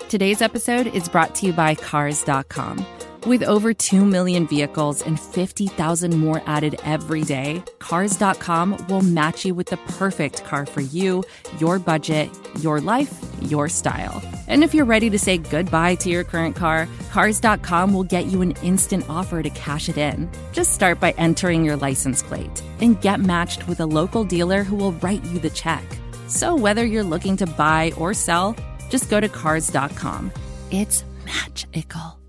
Today's episode is brought to you by Cars.com. With over 2 million vehicles and 50,000 more added every day, Cars.com will match you with the perfect car for you, your budget, your life, your style. And if you're ready to say goodbye to your current car, Cars.com will get you an instant offer to cash it in. Just start by entering your license plate and get matched with a local dealer who will write you the check. So whether you're looking to buy or sell, just go to Cars.com. It's magical.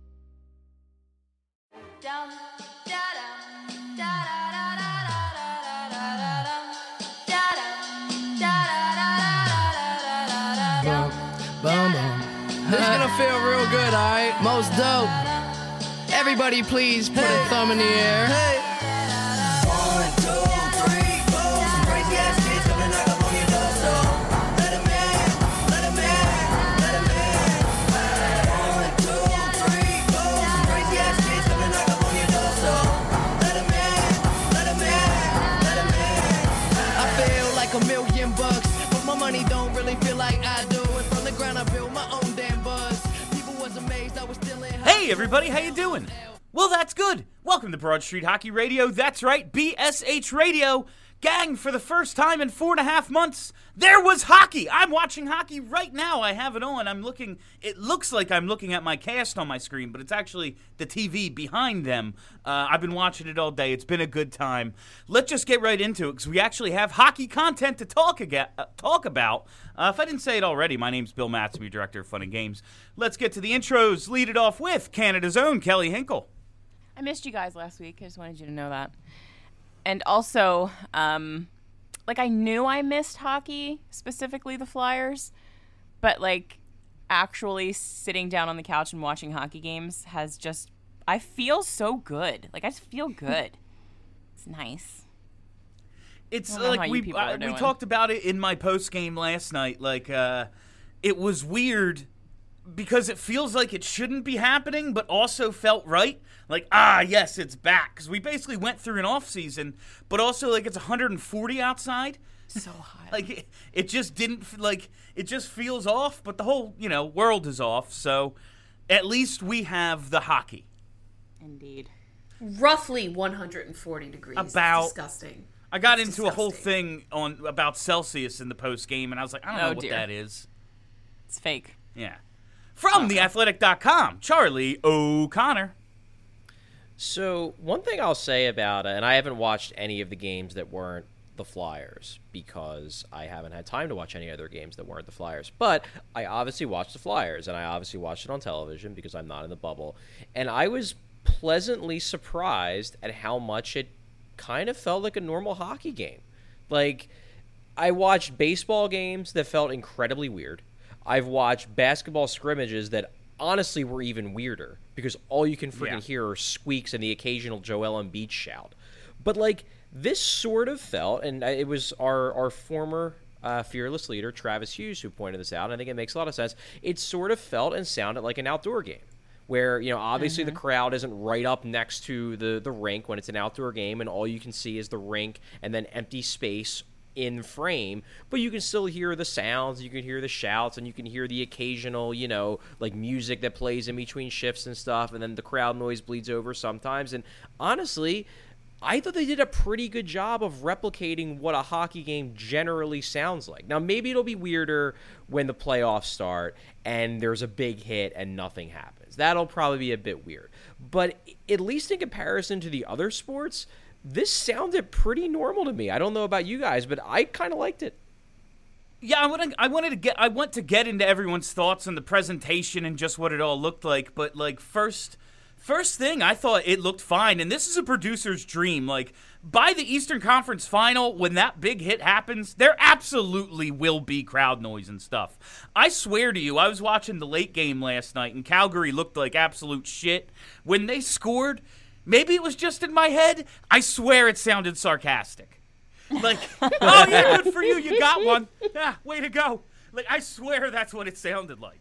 This is gonna feel real good, alright? Most dope. Everybody please put a thumb in the air. Hey. 1, 2, 3, 4. Some crazy ass kids coming knock up on your door, so let 'em in, let 'em in, let 'em in. 1, 2, 3, 4. Some crazy ass kids coming knock up on your door, so let 'em in, let 'em in, let 'em in. I feel like $1,000,000, but my money don't really feel like I do. And from the ground I built my own damn buzz. People was amazed I was still in. Hey everybody, how you doing? Well, that's good. Welcome to Broad Street Hockey Radio. That's right, BSH Radio. Gang, for the first time in 4.5 months, there was hockey. I'm watching hockey right now. I have it on. It looks like I'm looking at my cast on my screen, but it's actually the TV behind them. I've been watching it all day. It's been a good time. Let's just get right into it, because we actually have hockey content to talk about. If I didn't say it already, my name's Bill Matsby, Director of Fun and Games. Let's get to the intros. Lead it off with Canada's own Kelly Hinkle. I missed you guys last week. I just wanted you to know that. And also, I knew I missed hockey, specifically the Flyers, but, actually sitting down on the couch and watching hockey games I feel so good. I just feel good. It's nice. It's we talked about it in my post game last night. It was weird because it feels like it shouldn't be happening, but also felt right. Yes, it's back. Because we basically went through an off season, but also it's 140 outside. So hot. It just didn't it just feels off, but the whole world is off. So at least we have the hockey. Indeed. Roughly 140 degrees. It's disgusting. I got into a whole thing about Celsius in the post game, and I was like, I don't know what that is. It's fake. Yeah. From theathletic.com, Charlie O'Connor. So one thing I'll say about it, and I haven't watched any of the games that weren't the Flyers because I haven't had time to watch any other games that weren't the Flyers. But I obviously watched the Flyers, and I obviously watched it on television because I'm not in the bubble. And I was pleasantly surprised at how much it kind of felt like a normal hockey game. I watched baseball games that felt incredibly weird. I've watched basketball scrimmages that honestly were even weirder because all you can freaking hear are squeaks and the occasional Joel Embiid shout. But this sort of felt, and it was our former fearless leader, Travis Hughes, who pointed this out, and I think it makes a lot of sense. It sort of felt and sounded like an outdoor game where, obviously the crowd isn't right up next to the rink when it's an outdoor game, and all you can see is the rink and then empty space in frame, but you can still hear the sounds, you can hear the shouts, and you can hear the occasional, music that plays in between shifts and stuff, and then the crowd noise bleeds over sometimes. And honestly, I thought they did a pretty good job of replicating what a hockey game generally sounds like. Now, maybe it'll be weirder when the playoffs start and there's a big hit and nothing happens. That'll probably be a bit weird. But at least in comparison to the other sports, this sounded pretty normal to me. I don't know about you guys, but I kind of liked it. Yeah, I want to get into everyone's thoughts on the presentation and just what it all looked like. But first thing, I thought it looked fine, and this is a producer's dream. By the Eastern Conference Final, when that big hit happens, there absolutely will be crowd noise and stuff. I swear to you, I was watching the late game last night, and Calgary looked like absolute shit. When they scored, maybe it was just in my head, I swear it sounded sarcastic. Oh, yeah, good for you, you got one. Yeah, way to go. I swear that's what it sounded like.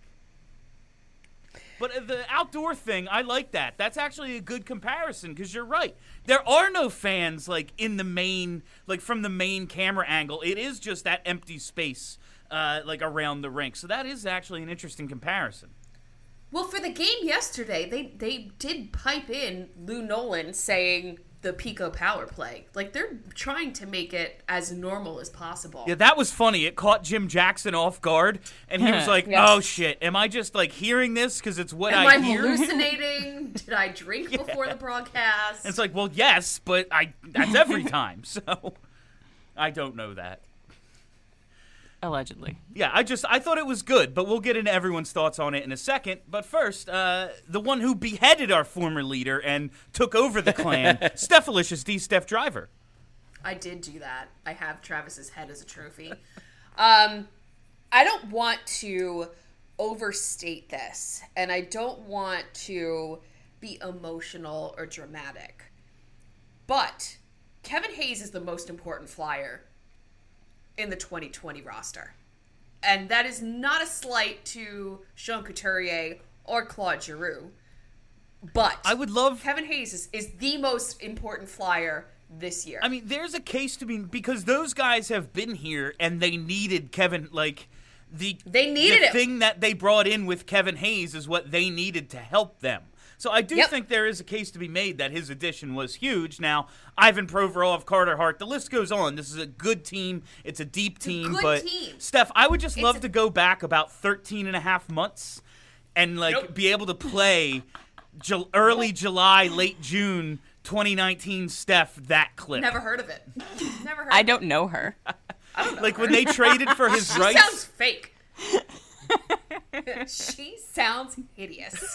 But the outdoor thing, I like that. That's actually a good comparison because you're right. There are no fans in the main, from the main camera angle. It is just that empty space like around the rink. So that is actually an interesting comparison. Well, for the game yesterday, they did pipe in Lou Nolan saying the Pico power play. Like, they're trying to make it as normal as possible. Yeah, that was funny. It caught Jim Jackson off guard, and he was like, oh, shit, am I just, like, hearing this because it's what I hear? Am I hallucinating? Did I drink before the broadcast? And it's like, well, yes, but that's every time, so I don't know that. Allegedly. Yeah, I thought it was good, but we'll get into everyone's thoughts on it in a second. But first, the one who beheaded our former leader and took over the clan, Stephalicious D. Steph Driver. I did do that. I have Travis's head as a trophy. I don't want to overstate this, and I don't want to be emotional or dramatic. But Kevin Hayes is the most important Flyer in the 2020 roster. And that is not a slight to Sean Couturier or Claude Giroux. But I would love Kevin Hayes is the most important Flyer this year. I mean, there's a case to be, because those guys have been here and they needed Kevin, like the thing that they brought in with Kevin Hayes is what they needed to help them. So I do think there is a case to be made that his addition was huge. Now, Ivan Provorov, Carter Hart, the list goes on. This is a good team. It's a deep team. But Steph, I would just love to go back about 13 and a half months and be able to play early July, late June 2019 Steph that clip. Never heard of it. Never heard I don't know her. I don't know like her. When they traded for his rights. She sounds fake. She sounds hideous.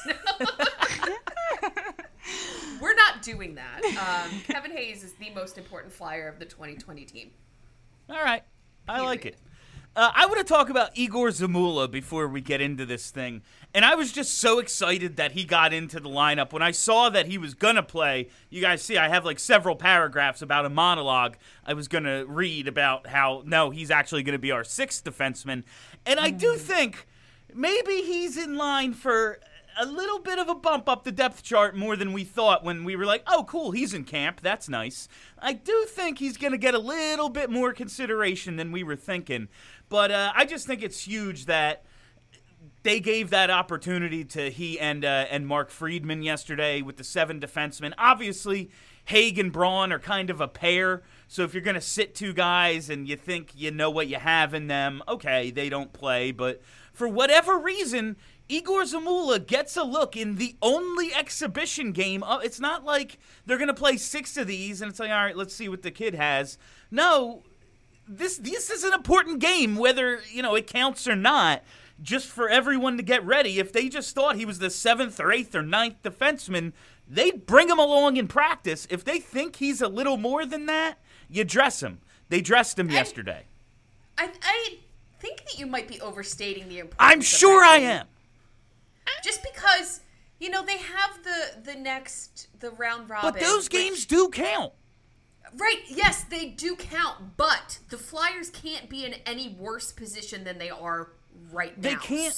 We're not doing that. Kevin Hayes is the most important Flyer of the 2020 team. All right. I like it. I want to talk about Igor Zamula before we get into this thing. And I was just so excited that he got into the lineup. When I saw that he was going to play, you guys see I have like several paragraphs about a monologue I was going to read about how, no, he's actually going to be our sixth defenseman. And I do think maybe he's in line for a little bit of a bump up the depth chart more than we thought when we were like, oh, cool, he's in camp. That's nice. I do think he's going to get a little bit more consideration than we were thinking. But I just think it's huge that they gave that opportunity to he and Mark Friedman yesterday with the 7 defensemen. Obviously, Haig and Braun are kind of a pair. So if you're going to sit 2 guys and you think you know what you have in them, okay, they don't play. But for whatever reason, Igor Zamula gets a look in the only exhibition game. It's not like they're going to play 6 of these and it's like, all right, let's see what the kid has. No, this is an important game, whether it counts or not, just for everyone to get ready. If they just thought he was the 7th or 8th or 9th defenseman, they'd bring him along in practice. If they think he's a little more than that, you dress him. They dressed him yesterday. I think that you might be overstating the importance. I'm sure I am. Just because, they have the round robin. But those games do count. Right, yes, they do count, but the Flyers can't be in any worse position than they are right now. They can't.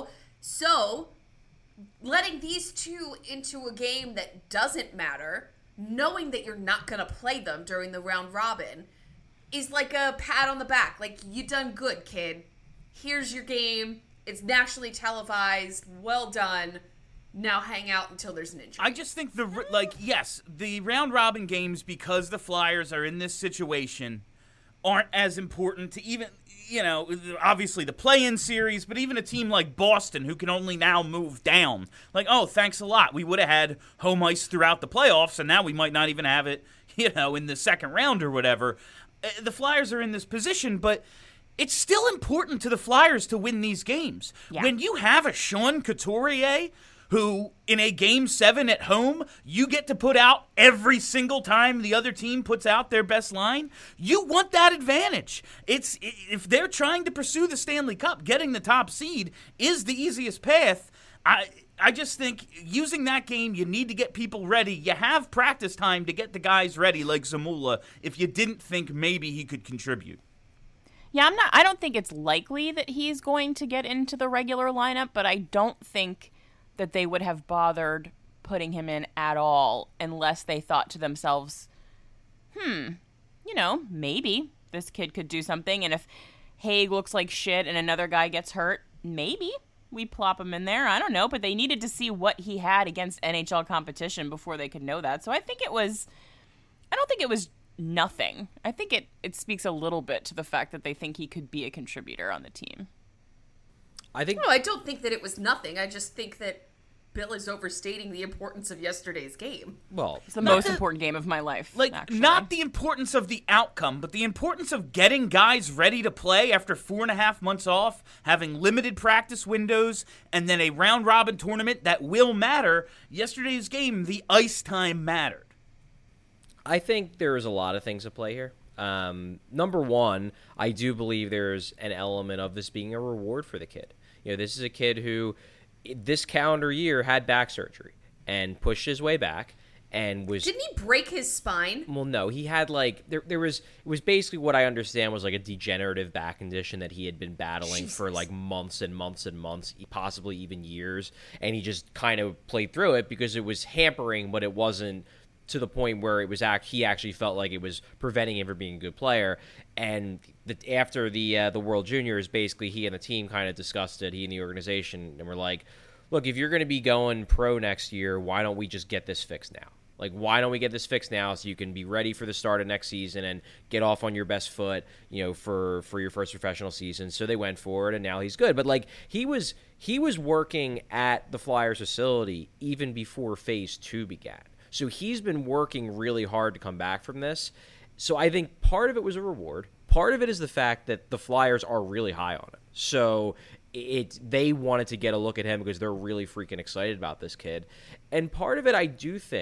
So letting these 2 into a game that doesn't matter, knowing that you're not going to play them during the round robin, is like a pat on the back. Like, you done good, kid. Here's your game. It's nationally televised. Well done. Now hang out until there's an injury. I just think the round robin games, because the Flyers are in this situation, aren't as important to even, obviously the play-in series, but even a team like Boston, who can only now move down. Like, oh, thanks a lot. We would have had home ice throughout the playoffs, and now we might not even have it, in the second round or whatever. The Flyers are in this position, but it's still important to the Flyers to win these games. Yeah. When you have a Sean Couturier who, in a Game 7 at home, you get to put out every single time the other team puts out their best line, you want that advantage. If they're trying to pursue the Stanley Cup, getting the top seed is the easiest path. I just think using that game, you need to get people ready. You have practice time to get the guys ready like Zamula if you didn't think maybe he could contribute. Yeah, I don't think it's likely that he's going to get into the regular lineup, but I don't think that they would have bothered putting him in at all unless they thought to themselves, maybe this kid could do something. And if Haig looks like shit and another guy gets hurt, maybe we plop him in there. I don't know, but they needed to see what he had against NHL competition before they could know that. So I don't think it was nothing. I think it speaks a little bit to the fact that they think he could be a contributor on the team. I don't think that it was nothing. I just think that Bill is overstating the importance of yesterday's game. Well, It's the most important game of my life. Like, actually. not the importance of the outcome, but the importance of getting guys ready to play after 4.5 months off, having limited practice windows, and then a round-robin tournament that will matter. Yesterday's game, the ice time mattered. I think there's a lot of things at play here. Number one, I do believe there's an element of this being a reward for the kid. This is a kid who this calendar year had back surgery and pushed his way back and was... Didn't he break his spine? Well, no, he had it was basically what I understand was like a degenerative back condition that he had been battling for like months and months and months, possibly even years. And he just kind of played through it because it was hampering, but it wasn't to the point where it was he actually felt like it was preventing him from being a good player. And after the World Juniors, basically he and the team kind of discussed it, he and the organization, and were like, look, if you're going to be going pro next year, why don't we just get this fixed now? Like, why don't we get this fixed now so you can be ready for the start of next season and get off on your best foot, for your first professional season? So they went for it, and now he's good. But like he was working at the Flyers facility even before Phase 2 began. So he's been working really hard to come back from this. So I think part of it was a reward. Part of it is the fact that the Flyers are really high on him. So they wanted to get a look at him because they're really freaking excited about this kid. And part of it, I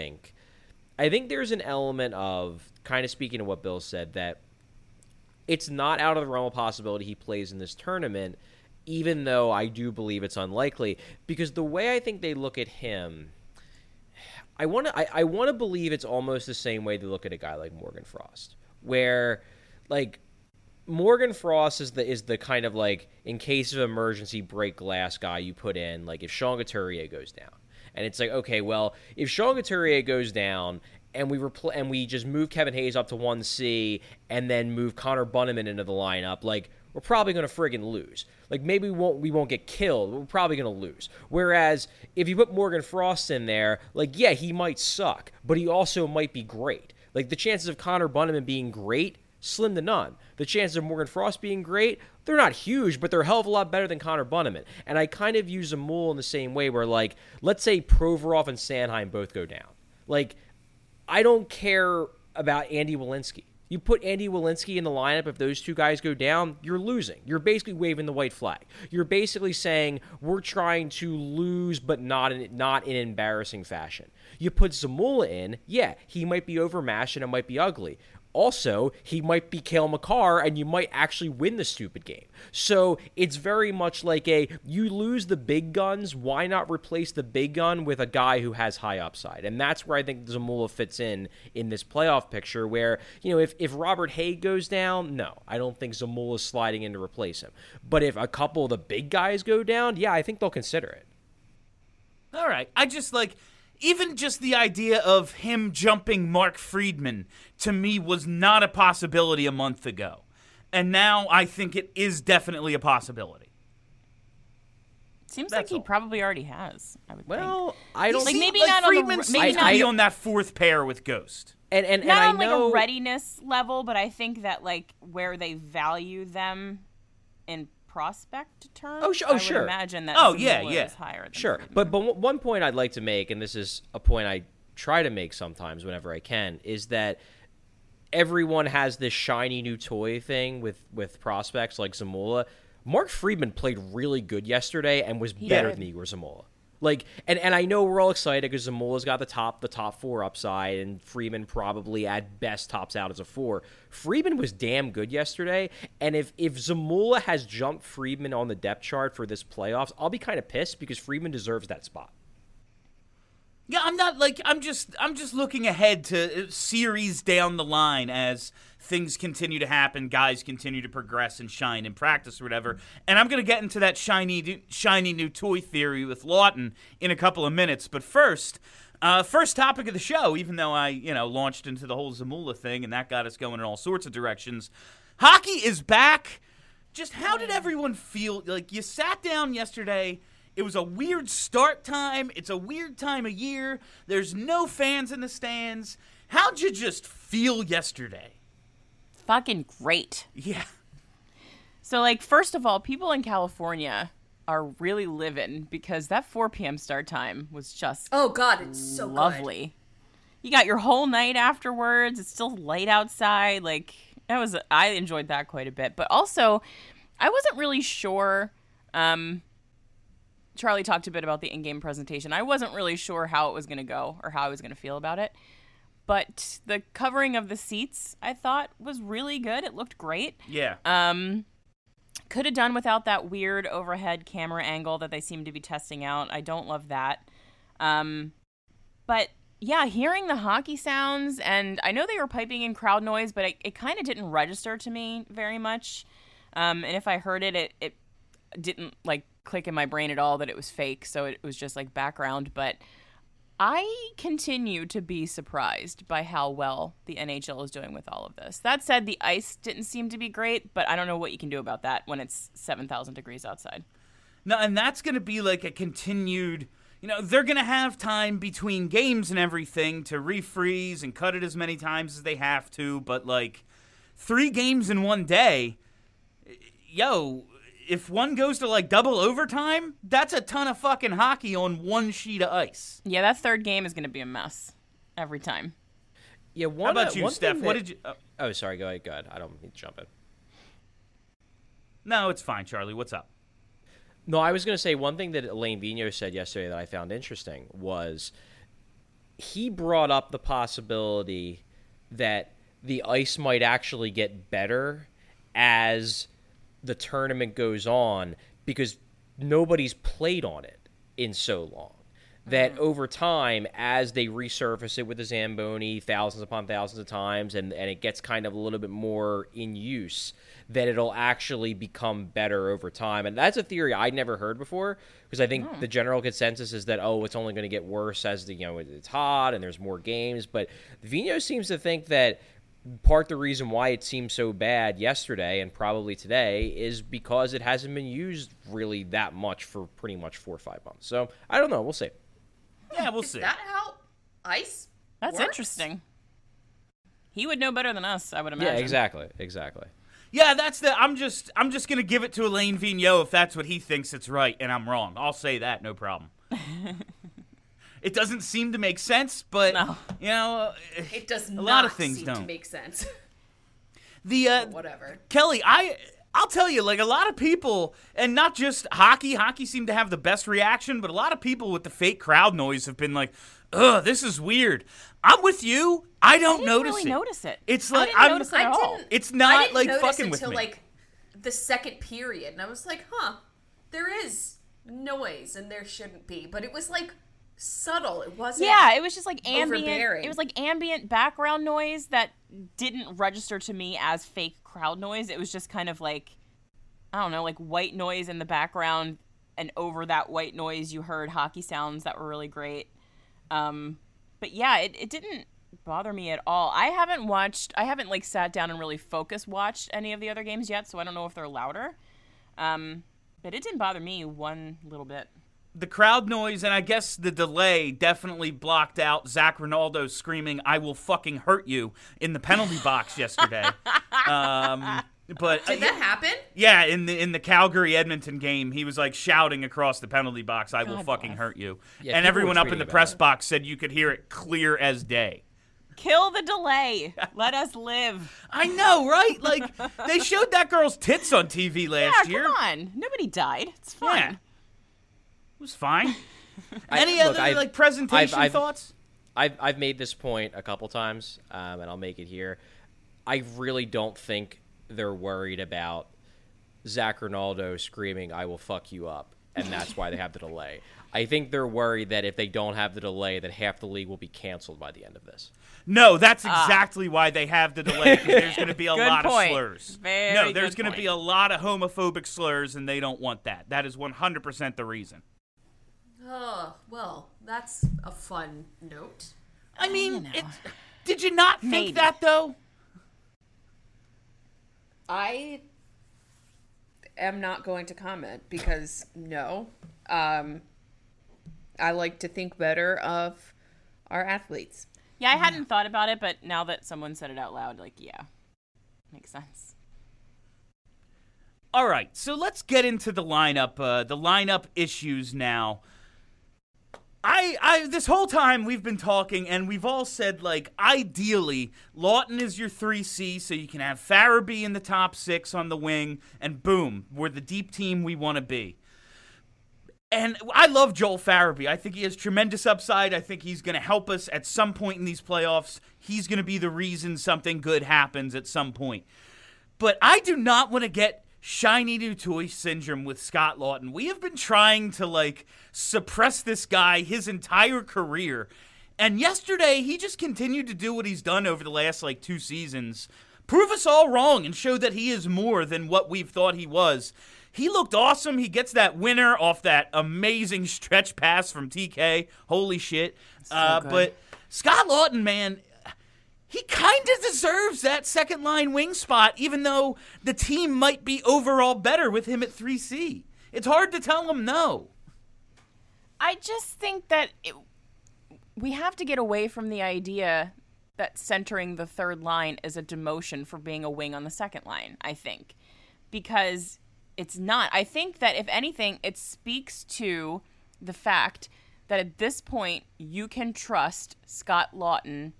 think there's an element of, kind of speaking to what Bill said, that it's not out of the realm of possibility he plays in this tournament, even though I do believe it's unlikely. Because the way I think they look at him... I want to believe it's almost the same way they look at a guy like Morgan Frost, where like Morgan Frost is the kind of like in case of emergency break glass guy you put in, like if Sean Couturier goes down, and it's like, okay, well, if Sean Couturier goes down and we just move Kevin Hayes up to 1C and then move Connor Bunnaman into the lineup, like we're probably going to friggin' lose. Like, maybe we won't get killed, but we're probably going to lose. Whereas, if you put Morgan Frost in there, like, yeah, he might suck, but he also might be great. Like, the chances of Connor Bunnaman being great, slim to none. The chances of Morgan Frost being great, they're not huge, but they're a hell of a lot better than Connor Bunnaman. And I kind of use Zamula in the same way where, like, let's say Provorov and Sanheim both go down. Like, I don't care about Andy Welinski. You put Andy Welinski in the lineup, if those two guys go down, you're losing. You're basically waving the white flag. You're basically saying we're trying to lose, but not in embarrassing fashion. You put Zamula in, yeah, he might be overmatched and it might be ugly. Also, he might be Cale Makar, and you might actually win the stupid game. So it's very much like you lose the big guns, why not replace the big gun with a guy who has high upside? And that's where I think Zamula fits in this playoff picture where, if Robert Haig goes down, no, I don't think Zamula's sliding in to replace him. But if a couple of the big guys go down, yeah, I think they'll consider it. All right. I just even just the idea of him jumping Mark Friedman, to me, was not a possibility a month ago. And now I think it is definitely a possibility. Seems like he probably already has, I would think. Well, I don't like think... maybe not Friedman on the maybe seems to be on that fourth pair with Ghost. And not I on know... like a readiness level, but I think that like where they value them in prospect terms, I would sure. imagine that yeah. is higher than Sure, Friedman. but one point I'd like to make, and this is a point I try to make sometimes whenever I can, is that everyone has this shiny new toy thing with prospects like Zamula. Mark Friedman played really good yesterday and was better than Igor Zamula. Like, and I know we're all excited because Zamula's got the top four upside, and Friedman probably at best tops out as a 4. Friedman was damn good yesterday, and if Zamula has jumped Friedman on the depth chart for this playoffs, I'll be kind of pissed because Friedman deserves that spot. Yeah, I'm just looking ahead to series down the line as things continue to happen, guys continue to progress and shine in practice or whatever. And I'm going to get into that shiny new toy theory with Lawton in a couple of minutes. But first topic of the show, even though I, launched into the whole Zamula thing and that got us going in all sorts of directions. Hockey is back. just how did everyone feel? Like, you sat down yesterday. It was a weird start time. It's a weird time of year. There's no fans in the stands. How'd you just feel yesterday? Fucking great. Yeah. So, like, first of all, people in California are really living because that 4 p.m. start time was just Oh God, it's so lovely. You got your whole night afterwards. It's still light outside. Like, I enjoyed that quite a bit. But also, I wasn't really sure. Charlie talked a bit about the in-game presentation. I wasn't really sure how it was going to go or how I was going to feel about it. But the covering of the seats, I thought, was really good. It looked great. Yeah. Could have done without that weird overhead camera angle that they seem to be testing out. I don't love that. But yeah, hearing the hockey sounds, and I know they were piping in crowd noise, but it kind of didn't register to me very much. And if I heard it, it didn't like click in my brain at all that it was fake. So it was just like background. But I continue to be surprised by how well the NHL is doing with all of this. That said, the ice didn't seem to be great, but I don't know what you can do about that when it's 7,000 degrees outside. No, and that's going to be like a continued, they're going to have time between games and everything to refreeze and cut it as many times as they have to, but like 3 games in one day, if one goes to like double overtime, that's a ton of fucking hockey on one sheet of ice. Yeah, that third game is going to be a mess every time. Yeah, How about you, Steph? What did you... Oh, sorry. Go ahead. I don't need to jump in. No, it's fine, Charlie. What's up? No, I was going to say one thing that Alain Vigneault said yesterday that I found interesting was he brought up the possibility that the ice might actually get better as the tournament goes on because nobody's played on it in so long. That over time, as they resurface it with the Zamboni thousands upon thousands of times and it gets kind of a little bit more in use, that it'll actually become better over time. And that's a theory I'd never heard before because I think the general consensus is that, it's only going to get worse as it's hot and there's more games. But Vigneault seems to think that part the reason why it seemed so bad yesterday and probably today is because it hasn't been used really that much for pretty much 4 or 5 months. So I don't know. We'll see. Yeah, we'll see. Is that how ice That's works? interesting. He would know better than us, I would imagine. Yeah, exactly. Yeah, I'm just gonna give it to Alain Vigneault if that's what he thinks it's right, and I'm wrong. I'll say that, no problem. It doesn't seem to make sense, but It does not a lot of things seem don't to make sense. Whatever. Kelly, I'll tell you, like a lot of people, and not just hockey seemed to have the best reaction, but a lot of people with the fake crowd noise have been like, ugh, this is weird. I'm with you. I don't really notice it. It's I like didn't notice it at all. It's I not didn't like notice fucking with until me. like the second period, and I was like, there is noise, and there shouldn't be, but it was like subtle. It wasn't. Yeah, it was just like ambient. overbearing. It was like ambient background noise that didn't register to me as fake crowd noise. It was just kind of like, I don't know, like white noise in the background, and over that white noise you heard hockey sounds that were really great. But yeah, it didn't bother me at all. I haven't like sat down and really focus watched any of the other games yet, so I don't know if they're louder. But it didn't bother me one little bit. The crowd noise and I guess the delay definitely blocked out Zach Ronaldo screaming, "I will fucking hurt you" in the penalty box yesterday. But Did that happen? Yeah, in the Calgary Edmonton game, he was like shouting across the penalty box, "I will God fucking bless. hurt you." Yeah, and people everyone were up in the tweeting press about it. box said you could hear it clear as day. Kill the delay. Let us live. I know, right? Like they showed that girl's tits on TV last Yeah, year. come on. Nobody died. It's fine. Yeah. It was fine. Look, Other presentation I've- thoughts? I've made this point a couple times, and I'll make it here. I really don't think they're worried about Zach Ronaldo screaming, "I will fuck you up," and that's why they have the delay. I think they're worried that if they don't have the delay, that half the league will be canceled by the end of this. No, that's exactly why they have the delay, because there's going to be a Good lot point. of slurs. Very no, there's good going to be a lot of homophobic slurs, and they don't want that. That is 100% the reason. Oh, well, that's a fun note. I mean, did you not think Maybe. that, though? I am not going to comment because no. I like to think better of our athletes. Yeah, I hadn't thought about it, but now that someone said it out loud, like, yeah, makes sense. All right, so let's get into the lineup issues now. I this whole time we've been talking, and we've all said, like, ideally, Lawton is your 3C, so you can have Farabee in the top 6 on the wing, and boom, we're the deep team we want to be. And I love Joel Farabee. I think he has tremendous upside. I think he's going to help us at some point in these playoffs. He's going to be the reason something good happens at some point. But I do not want to get shiny new toy syndrome with Scott Lawton. We have been trying to, like, suppress this guy his entire career. And yesterday, he just continued to do what he's done over the last, 2 seasons. Prove us all wrong and show that he is more than what we've thought he was. He looked awesome. He gets that winner off that amazing stretch pass from TK. Holy shit. But Scott Lawton, man, he kind of deserves that second line wing spot, even though the team might be overall better with him at 3C. It's hard to tell him no. I just think that we have to get away from the idea that centering the third line is a demotion for being a wing on the second line, I think. Because it's not. I think that, if anything, it speaks to the fact that at this point, you can trust Scott Lawton,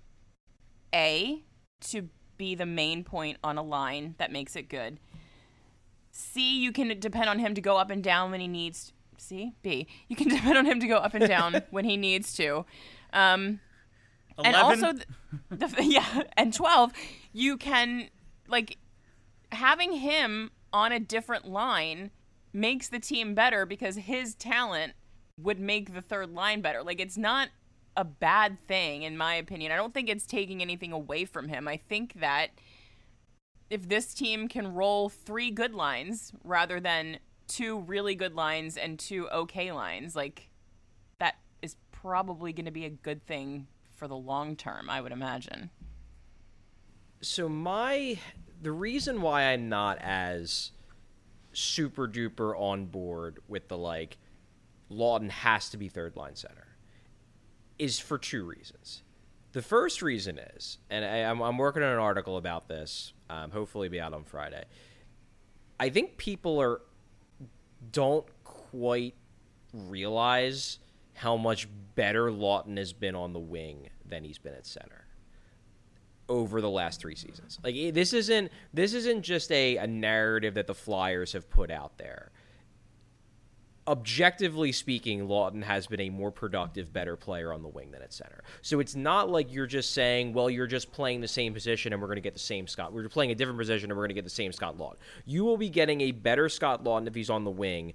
A, to be the main point on a line that makes it good. C, you can depend on him to go up and down when he needs. C, B, you can depend on him to go up and down when he needs to. And also, and 12, you can, having him on a different line makes the team better because his talent would make the third line better. It's not a bad thing, in my opinion. I don't think it's taking anything away from him. I think that if this team can roll 3 good lines rather than 2 really good lines and 2 okay lines, that is probably going to be a good thing for the long term, I would imagine. So the reason why I'm not as super duper on board with the Lawton has to be third line center is for 2 reasons. The first reason is, and I'm working on an article about this, hopefully be out on Friday. I think people don't quite realize how much better Lawton has been on the wing than he's been at center over the last 3 seasons. This isn't just a narrative that the Flyers have put out there. Objectively speaking, Lawton has been a more productive, better player on the wing than at center. So it's not like you're just saying, well, you're just playing the same position and we're going to get the same Scott. We're playing a different position and we're going to get the same Scott Lawton. You will be getting a better Scott Lawton if he's on the wing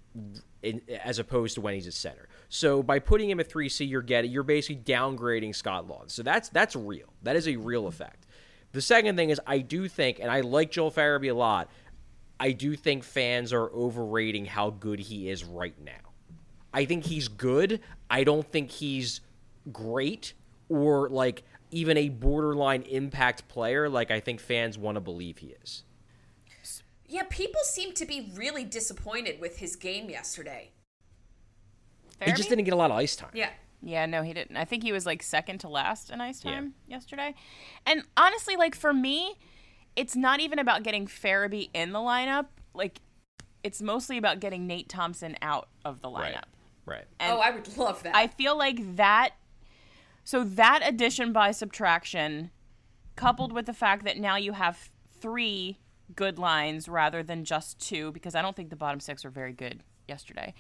as opposed to when he's at center. So by putting him at 3C, you're basically downgrading Scott Lawton. So that's real. That is a real effect. The second thing is, I do think, and I like Joel Farabee a lot, I do think fans are overrating how good he is right now. I think he's good. I don't think he's great or even a borderline impact player like I think fans want to believe he is. Yeah, people seem to be really disappointed with his game yesterday. He just didn't get a lot of ice time. Yeah. Yeah, no, he didn't. I think he was second to last in ice time yesterday. And honestly, for me, it's not even about getting Farabee in the lineup. It's mostly about getting Nate Thompson out of the lineup. Right. And I would love that. I feel like that. So that addition by subtraction, coupled with the fact that now you have 3 good lines rather than just 2, because I don't think the bottom 6 are very good yesterday.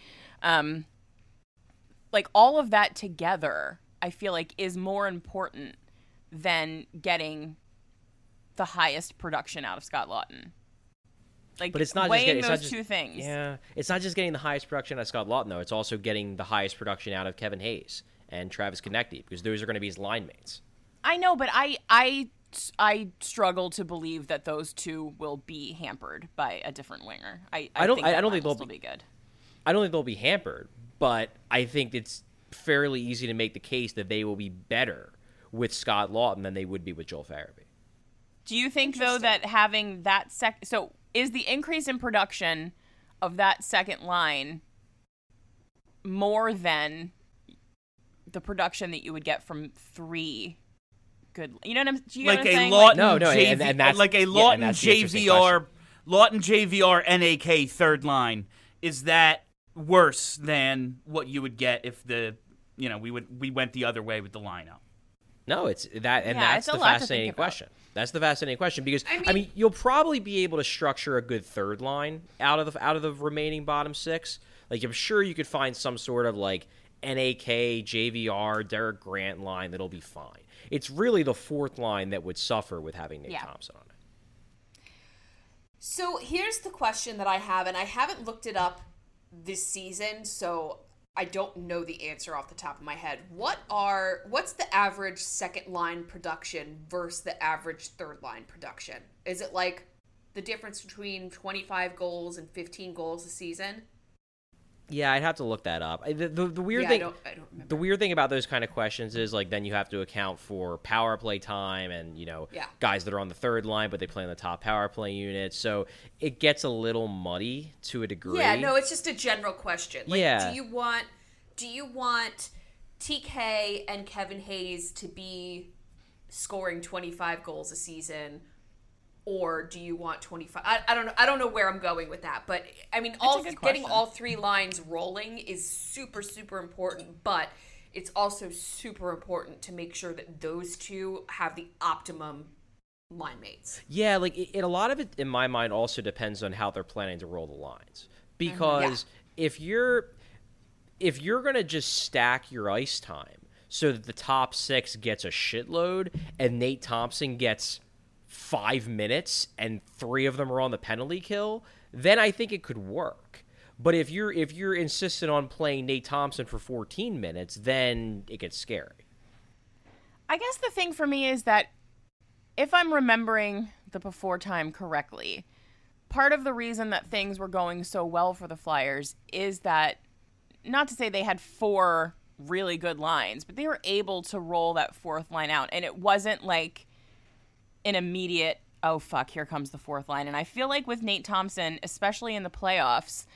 All of that together, I feel like is more important than getting the highest production out of Scott Lawton. But it's not weighing just those 2 things. Yeah, it's not just getting the highest production out of Scott Lawton, though. It's also getting the highest production out of Kevin Hayes and Travis Konecny, because those are going to be his line mates. I know, but I struggle to believe that those 2 will be hampered by a different winger. I don't think they'll be good. I don't think they'll be hampered, but I think it's fairly easy to make the case that they will be better with Scott Lawton than they would be with Joel Farabee. Do you think, though, that having that so is the increase in production of that second line more than the production that you would get from 3 good? You know what I'm? Do you know Like what I'm a saying? Lawton No, JV, and that's- like a yeah, Lawton and that's the interesting JVR, Lawton JVR NAK third line. Is that worse than what you would get if we went the other way with the lineup? No, it's that, and Yeah, that's it's a the lot to think fascinating about. question. That's the fascinating question because I I mean- mean, you'll probably be able to structure a good third line out of the remaining bottom 6. Like I'm sure you could find some sort of like NAK, JVR, Derek Grant line that'll be fine. It's really the fourth line that would suffer with having Nate Thompson on it. So here's the question that I have, and I haven't looked it up this season, so I don't know the answer off the top of my head. What's the average second line production versus the average third line production? Is it like the difference between 25 goals and 15 goals a season? Yeah, I'd have to look that up. The weird Yeah, thing, I don't remember. the weird thing about those kind of questions is like then you have to account for power play time and Yeah. guys that are on the third line but they play on the top power play unit. So it gets a little muddy to a degree. Yeah, no, it's just a general question. Like, Yeah. do you want TK and Kevin Hayes to be scoring 25 goals a season, or do you want 25? I don't know where I'm going with that, but I mean, a good getting question. all 3 lines rolling is super, super important. But it's also super important to make sure that those 2 have the optimum line mates. Yeah, like a lot of it in my mind also depends on how they're planning to roll the lines. Because if you're going to just stack your ice time so that the top 6 gets a shitload and Nate Thompson gets 5 minutes and 3 of them are on the penalty kill, then I think it could work. But if you're insistent on playing Nate Thompson for 14 minutes, then it gets scary. I guess the thing for me is that if I'm remembering the before time correctly, part of the reason that things were going so well for the Flyers is that, not to say they had 4 really good lines, but they were able to roll that fourth line out. And it wasn't like an immediate, oh, fuck, here comes the fourth line. And I feel like with Nate Thompson, especially in the playoffs,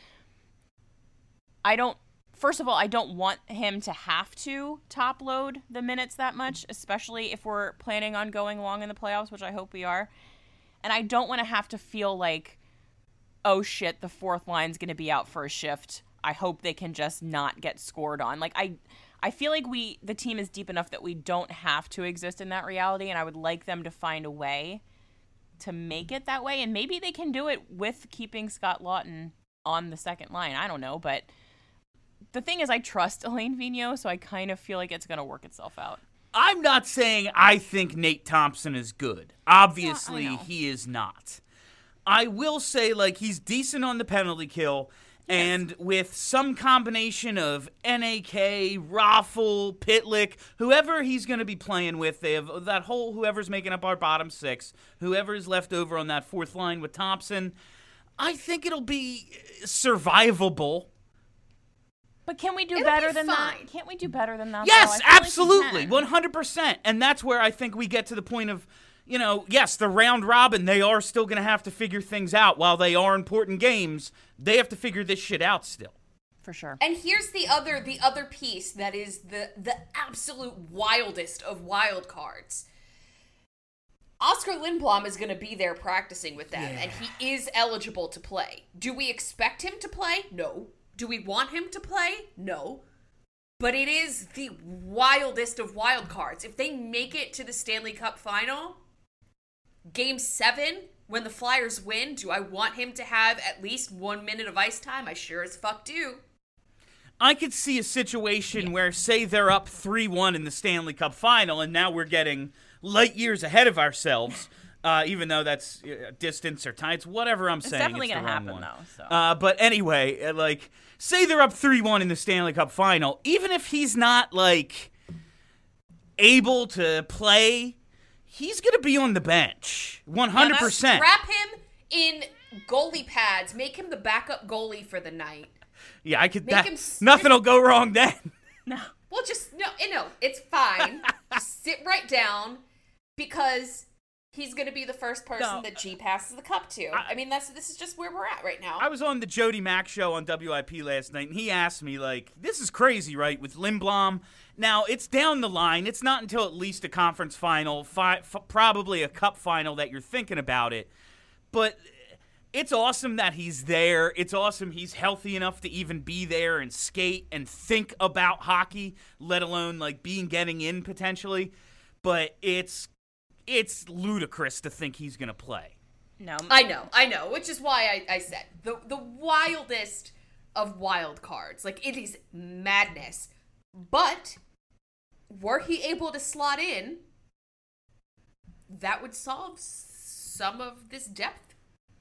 first of all, I don't want him to have to top load the minutes that much, especially if we're planning on going long in the playoffs, which I hope we are. And I don't want to have to feel like, oh shit, the fourth line's going to be out for a shift. I hope they can just not get scored on. Like, I feel like the team is deep enough that we don't have to exist in that reality, and I would like them to find a way to make it that way. And maybe they can do it with keeping Scott Lawton on the second line. I don't know, but the thing is I trust Elaine Vigneault, so I kind of feel like it's going to work itself out. I'm not saying I think Nate Thompson is good. Obviously, Yeah, I know. he is not. I will say, like, he's decent on the penalty kill, and with some combination of NAK, Raffle, Pitlick, whoever he's going to be playing with, they have that whole whoever's making up our bottom 6, whoever's left over on that fourth line with Thompson, I think it'll be survivable. But can we do It'll better be than fine. that? Can't we do better than that? Yes, though? I feel like we absolutely, can. 100%. And that's where I think we get to the point of, yes, the round robin, they are still going to have to figure things out. While they are important games, they have to figure this shit out still. For sure. And here's the other piece that is the absolute wildest of wild cards. Oscar Lindblom is going to be there practicing with them, and he is eligible to play. Do we expect him to play? No. Do we want him to play? No. But it is the wildest of wild cards. If they make it to the Stanley Cup final, Game 7, when the Flyers win, do I want him to have at least 1 minute of ice time? I sure as fuck do. I could see a situation where, say, they're up 3-1 in the Stanley Cup final, and now we're getting light years ahead of ourselves, even though that's distance or time. It's whatever I'm saying. definitely it's gonna the wrong happen, one. though, so. But anyway, like, say they're up 3-1 in the Stanley Cup final, even if he's not, like, able to play, he's going to be on the bench. 100%. Strap him in goalie pads. Make him the backup goalie for the night. Yeah, I could. Make him nothing will go wrong then. Well, just no, it's fine. Just sit right down because he's going to be the first person that G passes the cup to. I mean, this is just where we're at right now. I was on the Jody Mack show on WIP last night, and he asked me, like, this is crazy, right, with Lindblom. Now, it's down the line. It's not until at least a conference final, probably a cup final, that you're thinking about it. But it's awesome that he's there. It's awesome he's healthy enough to even be there and skate and think about hockey, let alone, like, getting in potentially. But it's ludicrous to think he's going to play. No. I know, which is why I said the wildest of wild cards. Like, it is madness. But were he able to slot in, that would solve some of this depth,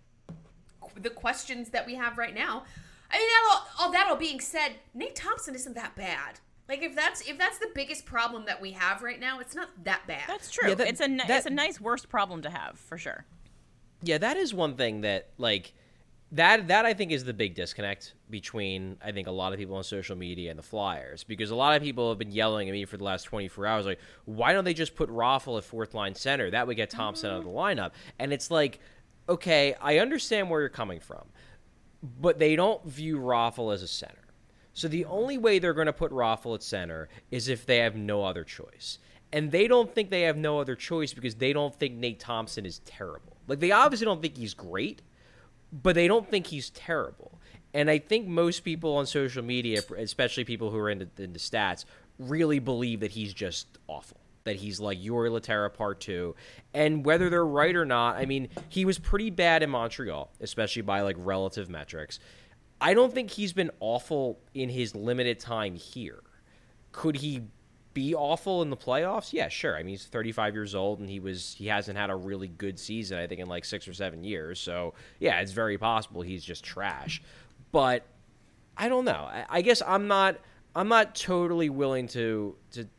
the questions that we have right now. I mean, all that all being said, Nate Thompson isn't that bad. Like, if that's the biggest problem that we have right now, it's not that bad. That's true. Yeah, it's a nice worst problem to have, for sure. Yeah, that is one thing that, like, that I think is the big disconnect between, I think, a lot of people on social media and the Flyers. Because a lot of people have been yelling at me for the last 24 hours, like, why don't they just put Raffl at fourth-line center? That would get Thompson out of the lineup. And it's like, okay, I understand where you're coming from, but they don't view Raffl as a center. So the only way they're going to put Raffl at center is if they have no other choice. And they don't think they have no other choice because they don't think Nate Thompson is terrible. Like, they obviously don't think he's great, but they don't think he's terrible. And I think most people on social media, especially people who are into stats, really believe that he's just awful. That he's like Jori Lehtera Part 2. And whether they're right or not, I mean, he was pretty bad in Montreal, especially by, like, relative metrics. I don't think he's been awful in his limited time here. Could he be awful in the playoffs? Yeah, sure. I mean, he's 35 years old, and he hasn't had a really good season, I think, in like 6 or 7 years. So, yeah, it's very possible he's just trash. But I don't know. I guess I'm not totally willing to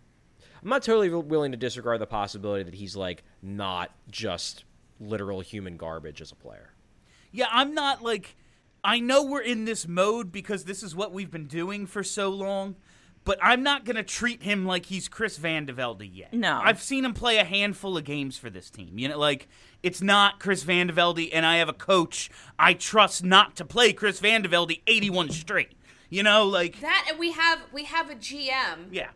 disregard the possibility that he's, like, not just literal human garbage as a player. Yeah, I'm not, like, I know we're in this mode because this is what we've been doing for so long, but I'm not going to treat him like he's Chris Van de Velde yet. No. I've seen him play a handful of games for this team. You know, like, it's not Chris Van de Velde, and I have a coach I trust not to play Chris Van de Velde 81 straight. You know, like... That, and we have a GM Yeah.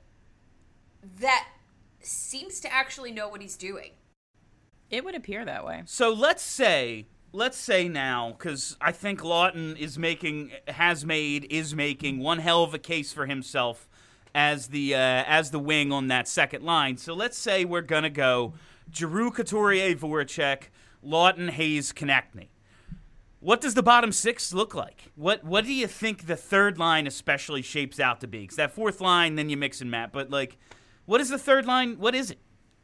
that seems to actually know what he's doing. It would appear that way. So let's say now, because I think Laughton is making one hell of a case for himself as the wing on that second line. So let's say we're gonna go Giroux, Couturier, Voracek, Laughton, Hayes, Konechny. What does the bottom six look like? What do you think the third line especially shapes out to be? Because that fourth line, then you mix and match. But, like, what is the third line? What is it?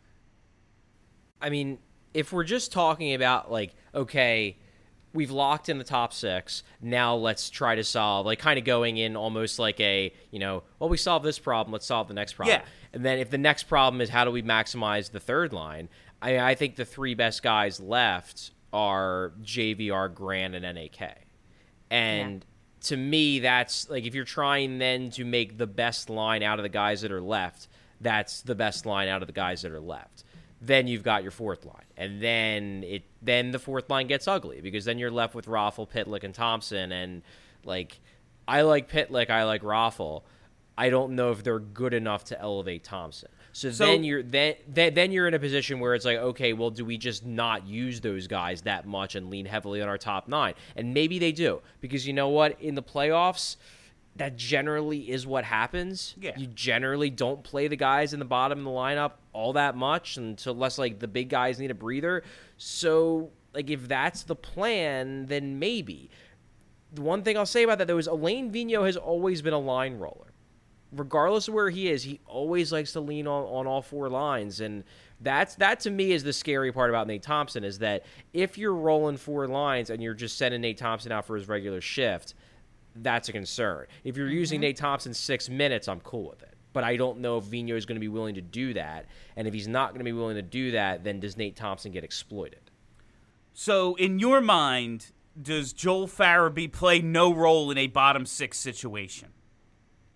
I mean, if we're just talking about, like, okay, we've locked in the top six, now let's try to solve, like, kind of going in almost like a, you know, well, we solved this problem, let's solve the next problem. Yeah. And then if the next problem is how do we maximize the third line, I think the three best guys left are JVR, Grant, and NAK. And to me, that's, like, if you're trying then to make the best line out of the guys that are left, that's the best line out of the guys that are left. Then you've got your fourth line. And then the fourth line gets ugly because then you're left with Raffl, Pitlick, and Thompson. And, like, I like Pitlick, I like Raffl. I don't know if they're good enough to elevate Thompson. So then you're in a position where it's like, okay, well, do we just not use those guys that much and lean heavily on our top nine? And maybe they do, because you know what? In the playoffs, that generally is what happens. Yeah. You generally don't play the guys in the bottom of the lineup all that much unless, like, the big guys need a breather. So, like, if that's the plan, then maybe. The one thing I'll say about that, though, is Alain Vigneault has always been a line roller. Regardless of where he is, he always likes to lean on all four lines. And that to me is the scary part about Nate Thompson, is that if you're rolling four lines and you're just sending Nate Thompson out for his regular shift, that's a concern. If you're using Nate Thompson 6 minutes, I'm cool with it. But I don't know if Vigneault is going to be willing to do that. And if he's not going to be willing to do that, then does Nate Thompson get exploited? So in your mind, does Joel Farabee play no role in a bottom six situation?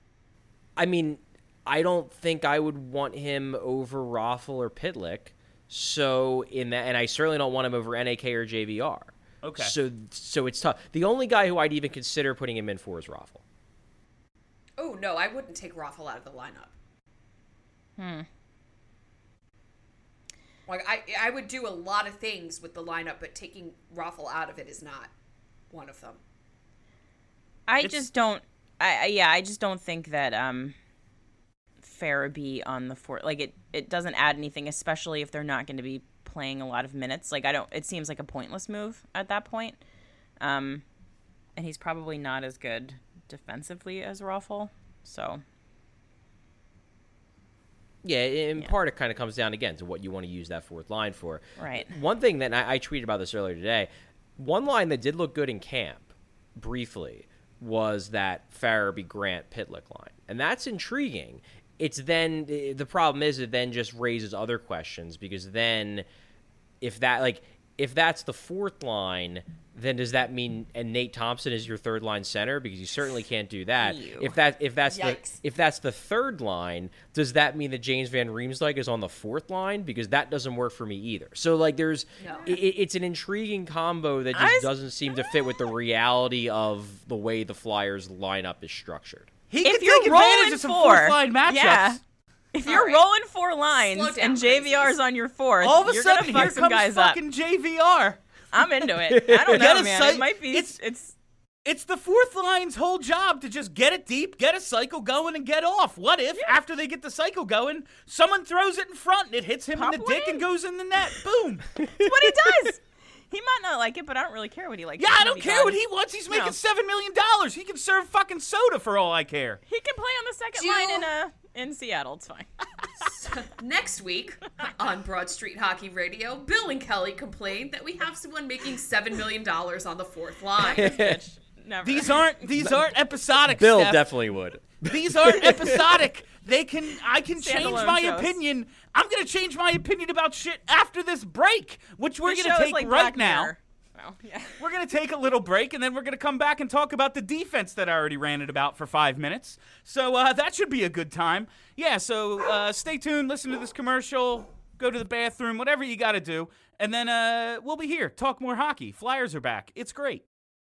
I mean, I don't think I would want him over Raffl or Pitlick. So in that, and I certainly don't want him over NAK or JVR. Okay. So it's tough. The only guy who I'd even consider putting him in for is Raffle. Oh, no, I wouldn't take Raffle out of the lineup. Like, I would do a lot of things with the lineup, but taking Raffle out of it is not one of them. I just don't think that Farabee on the fourth, like it doesn't add anything, especially if they're not going to be playing a lot of minutes. Like it seems like a pointless move at that point. And he's probably not as good defensively as Raffle. So yeah, in part it kind of comes down again to what you want to use that fourth line for. Right. One thing that I tweeted about this earlier today, one line that did look good in camp briefly was that Farabee Grant Pitlick line. And that's intriguing. It's then the problem is it then just raises other questions, because then if that's the fourth line, then does that mean and Nate Thompson is your third line center? Because you certainly can't do that. Ew. If that's the third line, does that mean that James Van Riemsdyk is on the fourth line? Because that doesn't work for me either. So like it's an intriguing combo that just doesn't seem to fit with the reality of the way the Flyers lineup is structured. If you're rolling fourth line matchups. Yeah. If you're rolling four lines and JVR's on your fourth, all of a you're sudden gonna fuck here some comes guys up. fucking JVR. I'm into it. I don't know, man. It might be. It's the fourth line's whole job to just get it deep, get a cycle going, and get off. What if, after they get the cycle going, someone throws it in front and it hits him in the dick and goes in the net? Boom. That's what he does. He might not like it, but I don't really care what he likes. Yeah, I don't care what he wants. He's making $7 million. He can serve fucking soda for all I care. He can play on the second line in Seattle. It's fine. Next week on Broad Street Hockey Radio, Bill and Kelly complained that we have someone making $7 million on the fourth line. Never. These aren't episodic. Bill Steph. definitely would. These aren't episodic. I can change Standalone my shows. opinion. I'm gonna change my opinion about shit after this break, which we're This gonna show is take like right Black now. Mirror. Well, yeah. We're gonna take a little break, and then we're gonna come back and talk about the defense that I already ranted about for 5 minutes. So that should be a good time. Yeah. So stay tuned. Listen to this commercial. Go to the bathroom. Whatever you got to do, and then we'll be here. Talk more hockey. Flyers are back. It's great.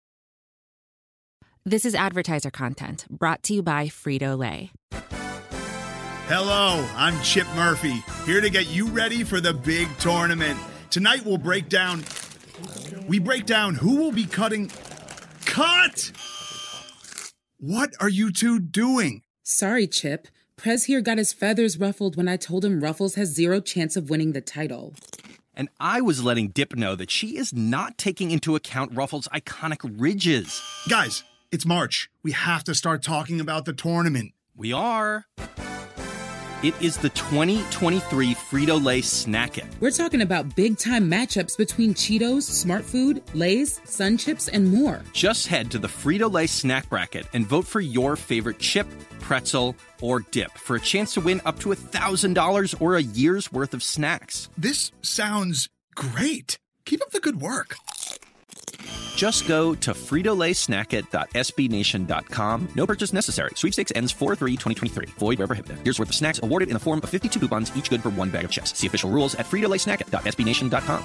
This is advertiser content brought to you by Frito-Lay. Hello, I'm Chip Murphy, here to get you ready for the big tournament. Tonight we'll break down who will be cutting. Cut! What are you two doing? Sorry, Chip. Prez here got his feathers ruffled when I told him Ruffles has zero chance of winning the title. And I was letting Dip know that she is not taking into account Ruffles' iconic ridges. Guys, it's March. We have to start talking about the tournament. We are. It is the 2023 Frito-Lay Snack It. We're talking about big-time matchups between Cheetos, Smart Food, Lay's, Sun Chips, and more. Just head to the Frito-Lay Snack Bracket and vote for your favorite chip, pretzel, or dip for a chance to win up to $1,000 or a year's worth of snacks. This sounds great. Keep up the good work. Just go to fritolaysnackit.sbnation.com. No purchase necessary. Sweepstakes ends 4/3/2023. Void where prohibited. Here's worth of snacks awarded in the form of 52 coupons, each good for one bag of chips. See official rules at fritolaysnackit.sbnation.com.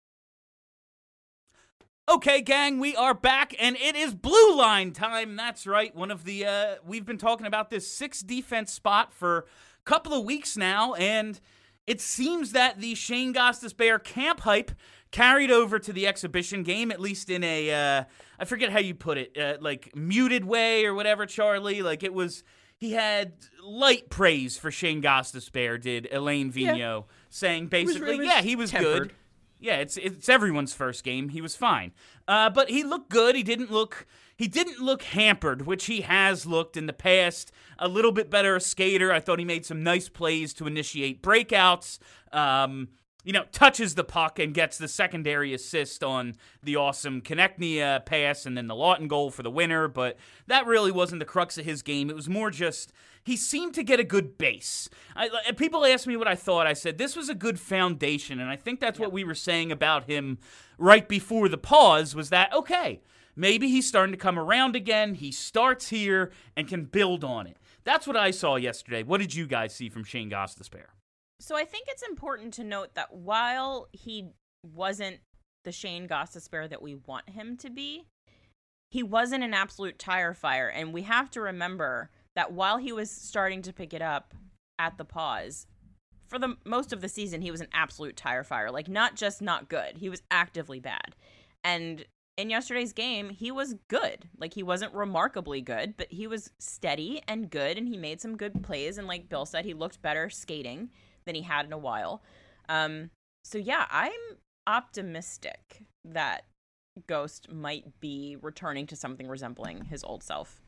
Okay, gang, we are back, and it is blue line time. That's right. One of the we've been talking about this 6 defense spot for a couple of weeks now, and it seems that the Shane Gostisbehere camp hype carried over to the exhibition game, at least in a, I forget how you put it, like muted way or whatever, Charlie. Like he had light praise for Shane Gostisbehere, did Elaine Vigneault, saying basically, he was tempered. good. Yeah, it's everyone's first game. He was fine. But he looked good. He didn't look hampered, which he has looked in the past. A little bit better a skater. I thought he made some nice plays to initiate breakouts. Touches the puck and gets the secondary assist on the awesome Konechny pass and then the Lawton goal for the winner. But that really wasn't the crux of his game. It was more just he seemed to get a good base. People asked me what I thought. I said this was a good foundation, and I think that's what we were saying about him right before the pause was that, okay, maybe he's starting to come around again. He starts here and can build on it. That's what I saw yesterday. What did you guys see from Shane Gostisbehere? So I think it's important to note that while he wasn't the Shane Gostisbehere that we want him to be, he wasn't an absolute tire fire. And we have to remember that while he was starting to pick it up at the pause, for the most of the season, he was an absolute tire fire. Like, not just not good. He was actively bad. And in yesterday's game, he was good. Like, he wasn't remarkably good, but he was steady and good, and he made some good plays. And like Bill said, he looked better skating than he had in a while. So yeah, I'm optimistic that Ghost might be returning to something resembling his old self.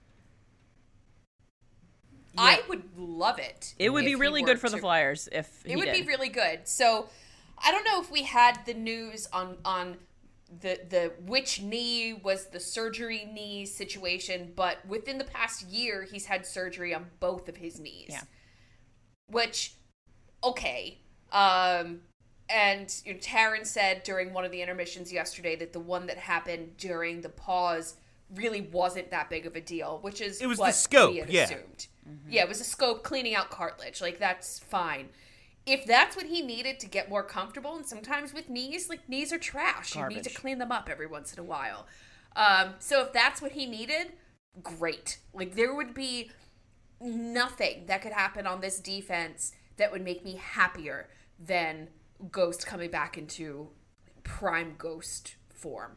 Yeah. I would love it. It would be really good for the Flyers if he It would did. be really good. So I don't know if we had the news on the which knee was the surgery knee situation, but within the past year, he's had surgery on both of his knees. Yeah. Which, okay. And Taryn said during one of the intermissions yesterday that the one that happened during the pause really wasn't that big of a deal, which is it was what the scope, we had yeah. assumed. Mm-hmm. Yeah, it was a scope cleaning out cartilage. Like, that's fine. If that's what he needed to get more comfortable, and sometimes with knees, like, knees are trash. Garbage. You need to clean them up every once in a while. So if that's what he needed, great. Like, there would be nothing that could happen on this defense that would make me happier than Ghost coming back into prime Ghost form.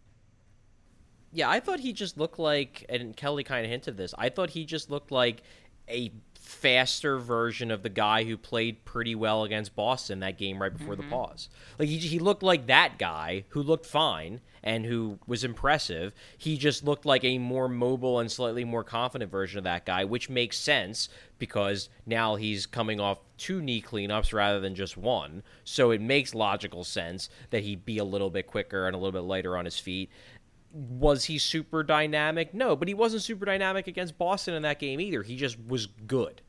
Yeah, I thought he just looked like, and Kelly kind of hinted this, I thought he just looked like a faster version of the guy who played pretty well against Boston that game right before the pause. Like, he looked like that guy who looked fine and who was impressive. He just looked like a more mobile and slightly more confident version of that guy, which makes sense because now he's coming off 2 knee cleanups rather than just 1. So it makes logical sense that he'd be a little bit quicker and a little bit lighter on his feet. Was he super dynamic? No, but he wasn't super dynamic against Boston in that game either. He just was good.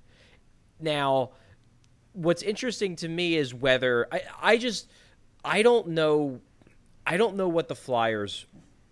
Now, what's interesting to me is whether I don't know what the Flyers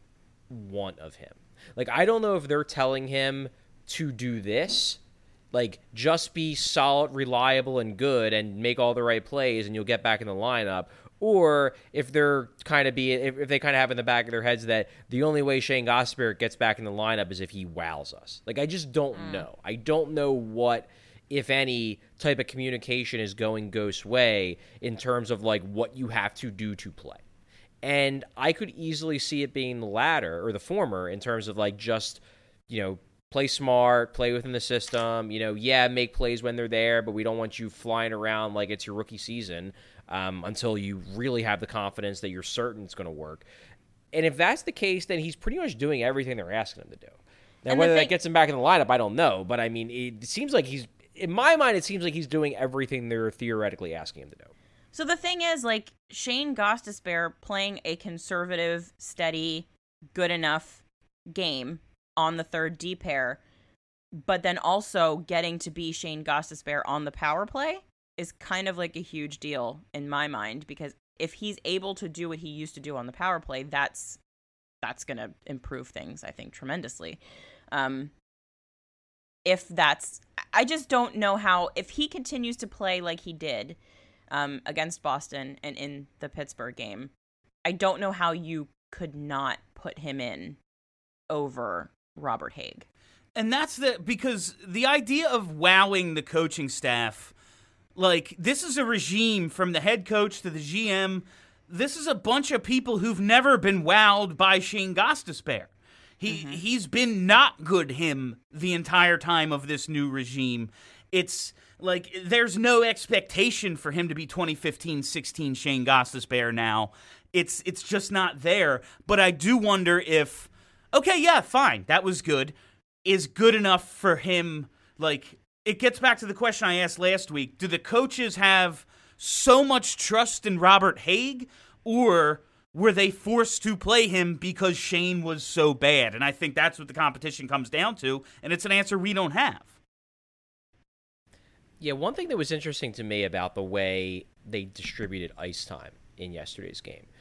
want of him. Like, I don't know if they're telling him to do this, like, just be solid, reliable, and good and make all the right plays and you'll get back in the lineup. Or if they're if they kind of have in the back of their heads that the only way Shane Gostisbehere gets back in the lineup is if he wows us. Like, I just don't know. I don't know what, if any, type of communication is going Ghost's way in terms of, like, what you have to do to play. And I could easily see it being the latter, or the former, in terms of, like, just, play smart, play within the system, make plays when they're there, but we don't want you flying around like it's your rookie season until you really have the confidence that you're certain it's going to work. And if that's the case, then he's pretty much doing everything they're asking him to do. Now, whether that gets him back in the lineup, I don't know. But, I mean, it seems like in my mind, it seems like he's doing everything they're theoretically asking him to do. So the thing is, like, Shane Gostisbehere playing a conservative, steady, good enough game on the third D pair, but then also getting to be Shane Gostisbehere on the power play is kind of like a huge deal in my mind, because if he's able to do what he used to do on the power play, that's going to improve things, I think, tremendously. I just don't know how, if he continues to play like he did against Boston and in the Pittsburgh game, I don't know how you could not put him in over Robert Haig. And that's because the idea of wowing the coaching staff, like, this is a regime from the head coach to the GM. This is a bunch of people who've never been wowed by Shane Gostisbehere. He's been not good the entire time of this new regime. It's like there's no expectation for him to be 2015-16 Shane Gostisbehere now. It's just not there. But I do wonder if, okay, yeah, fine, that was good, is good enough for him. Like, it gets back to the question I asked last week. Do the coaches have so much trust in Robert Haig, or were they forced to play him because Shane was so bad? And I think that's what the competition comes down to, and it's an answer we don't have. Yeah, one thing that was interesting to me about the way they distributed ice time in yesterday's game,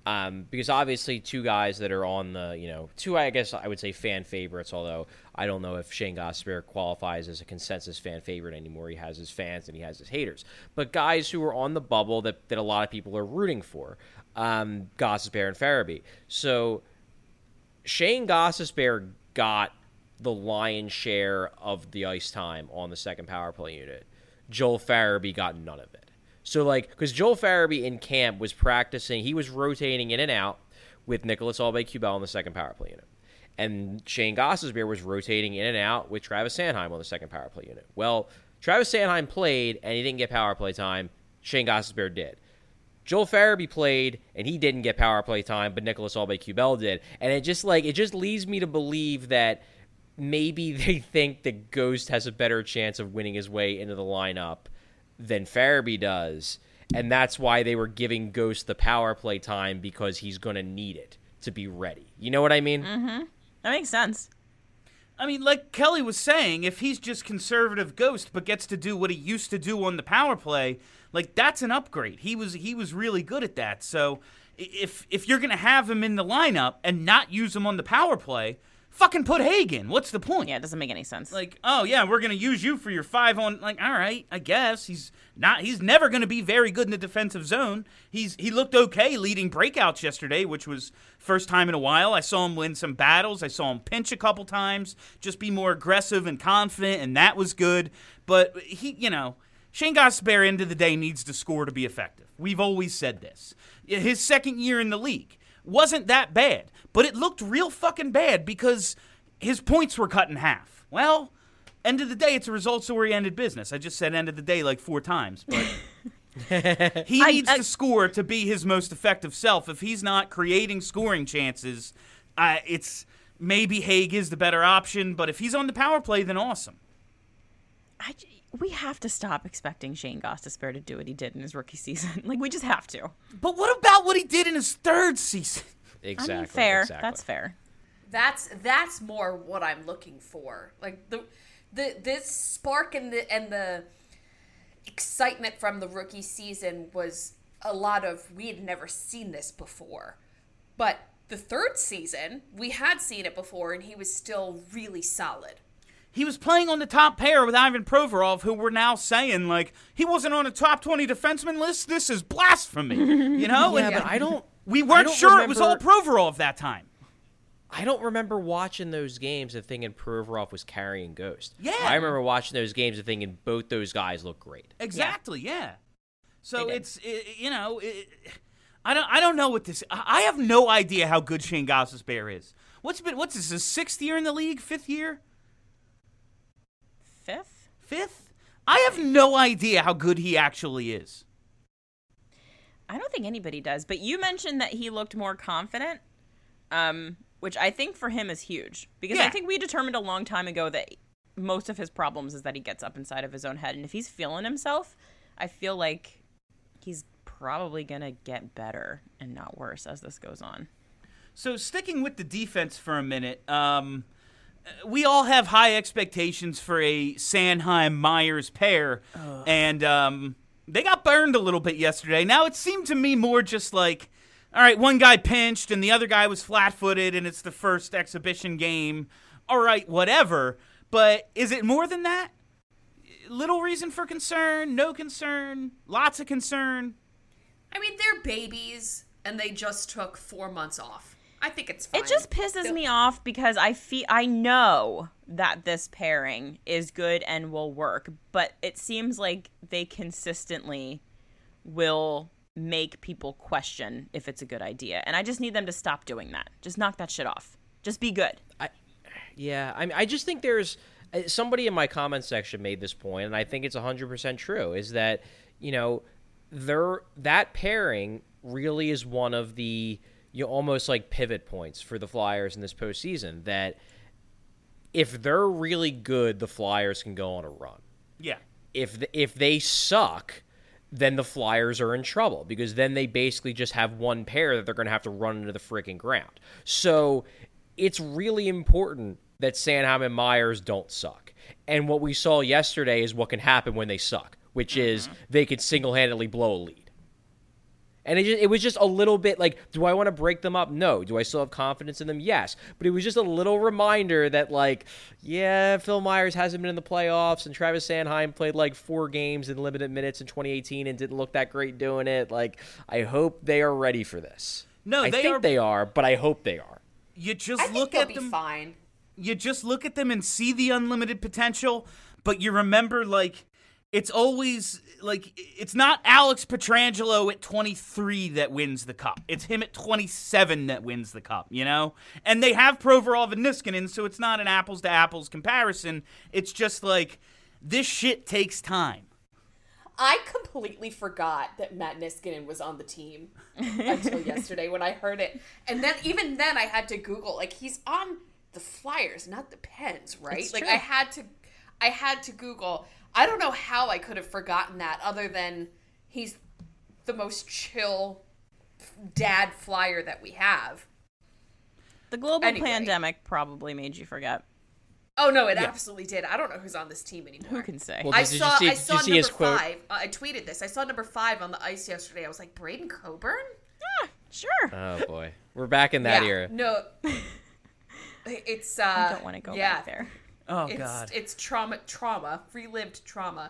Because obviously two guys that are on the, two, I guess I would say fan favorites, although I don't know if Shane Gostisbehere qualifies as a consensus fan favorite anymore. He has his fans and he has his haters. But guys who are on the bubble that a lot of people are rooting for, Gostisbehere and Farabee. So Shane Gostisbehere got the lion's share of the ice time on the second power play unit. Joel Farabee got none of it. So, because Joel Farabee in camp was practicing, he was rotating in and out with Nicolas Aube-Kubel on the second power play unit. And Shane Gostisbehere was rotating in and out with Travis Sanheim on the second power play unit. Well, Travis Sanheim played, and he didn't get power play time. Shane Gostisbehere did. Joel Farabee played, and he didn't get power play time, but Nicolas Aube-Kubel did. And it just leads me to believe that maybe they think that Ghost has a better chance of winning his way into the lineup than Farabee does, and that's why they were giving Ghost the power play time, because he's going to need it to be ready. You know what I mean? Mm-hmm. That makes sense. I mean, like Kelly was saying, if he's just conservative Ghost but gets to do what he used to do on the power play, that's an upgrade. He was really good at that. So if you're going to have him in the lineup and not use him on the power play, fucking put Hagen. What's the point? Yeah, it doesn't make any sense. Oh yeah, we're gonna use you for your 5 on. All right, I guess he's never gonna be very good in the defensive zone. He looked okay leading breakouts yesterday, which was first time in a while. I saw him win some battles. I saw him pinch a couple times, just be more aggressive and confident, and that was good. But Shane Gostisbehere, end of the day, needs to score to be effective. We've always said this. His second year in the league wasn't that bad, but it looked real fucking bad because his points were cut in half. Well, end of the day, it's a results-oriented business. I just said end of the day 4 times, but he needs to score to be his most effective self. If he's not creating scoring chances, it's maybe Haig is the better option, but if he's on the power play, then awesome. We have to stop expecting Shane Gostisbehere to do what he did in his rookie season. We just have to. But what about what he did in his third season? Exactly. I mean, fair. Exactly. That's fair. That's more what I'm looking for. This spark and the excitement from the rookie season was a lot of, we had never seen this before. But the third season, we had seen it before, and he was still really solid. He was playing on the top pair with Ivan Provorov, who we're now saying, he wasn't on a top 20 defenseman list. This is blasphemy, Yeah, but we weren't sure it was all Provorov that time. I don't remember watching those games and thinking Provorov was carrying Ghost. Yeah. I remember watching those games and thinking both those guys look great. Exactly, yeah. So I don't know what this. I have no idea how good Shane Gostisbehere is. What's this? His 6th year in the league? 5th year? 5th? I have no idea how good he actually is. I don't think anybody does, but you mentioned that he looked more confident, which I think for him is huge. Because I think we determined a long time ago that most of his problems is that he gets up inside of his own head. And if he's feeling himself, I feel like he's probably going to get better and not worse as this goes on. So sticking with the defense for a minute, we all have high expectations for a Sanheim-Myers pair, and they got burned a little bit yesterday. Now, it seemed to me more just all right, one guy pinched and the other guy was flat-footed, and it's the first exhibition game. All right, whatever. But is it more than that? Little reason for concern, no concern, lots of concern? I mean, they're babies, and they just took 4 months off. I think it's fine. It just pisses me off because I know that this pairing is good and will work, but it seems like they consistently will make people question if it's a good idea. And I just need them to stop doing that. Just knock that shit off. Just be good. I just think there's somebody in my comment section made this point, and I think it's 100% true, is that, that pairing really is one of the almost pivot points for the Flyers in this postseason, that if they're really good, the Flyers can go on a run. Yeah. If they suck, then the Flyers are in trouble, because then they basically just have one pair that they're going to have to run into the freaking ground. So it's really important that Sanheim and Myers don't suck. And what we saw yesterday is what can happen when they suck, which is they could single-handedly blow a lead. And it was just a little bit like, do I want to break them up? No. Do I still have confidence in them? Yes. But it was just a little reminder that, like, yeah, Phil Myers hasn't been in the playoffs, and Travis Sanheim played like 4 games in limited minutes in 2018 and didn't look that great doing it. Like, I hope they are ready for this. No, I think they are, but I hope they are. You just I think look they'll at be them. fine. You just look at them and see the unlimited potential, but you remember, like, it's always, like, it's not Alex Pietrangelo at 23 that wins the cup. It's him at 27 that wins the cup, you know? And they have Provorov and Niskanen, so it's not an apples-to-apples comparison. It's just, like, this shit takes time. I completely forgot that Matt Niskanen was on the team until yesterday when I heard it. And then, even then, I had to Google, like, he's on the Flyers, not the Pens, right? It's like, true. I had to Google. I don't know how I could have forgotten that, other than he's the most chill dad Flyer that we have. The global Anyway. pandemic probably made you forget. Oh no, it absolutely did. I don't know who's on this team anymore. Who can say? Well, I did you saw see number his quote? 5. I tweeted this. I saw number 5 on the ice yesterday. I was like, Braden Coburn? Sure. Oh, boy. We're back in that era. No. It's I don't want to go back there. Oh, it's, God. It's trauma, relived trauma.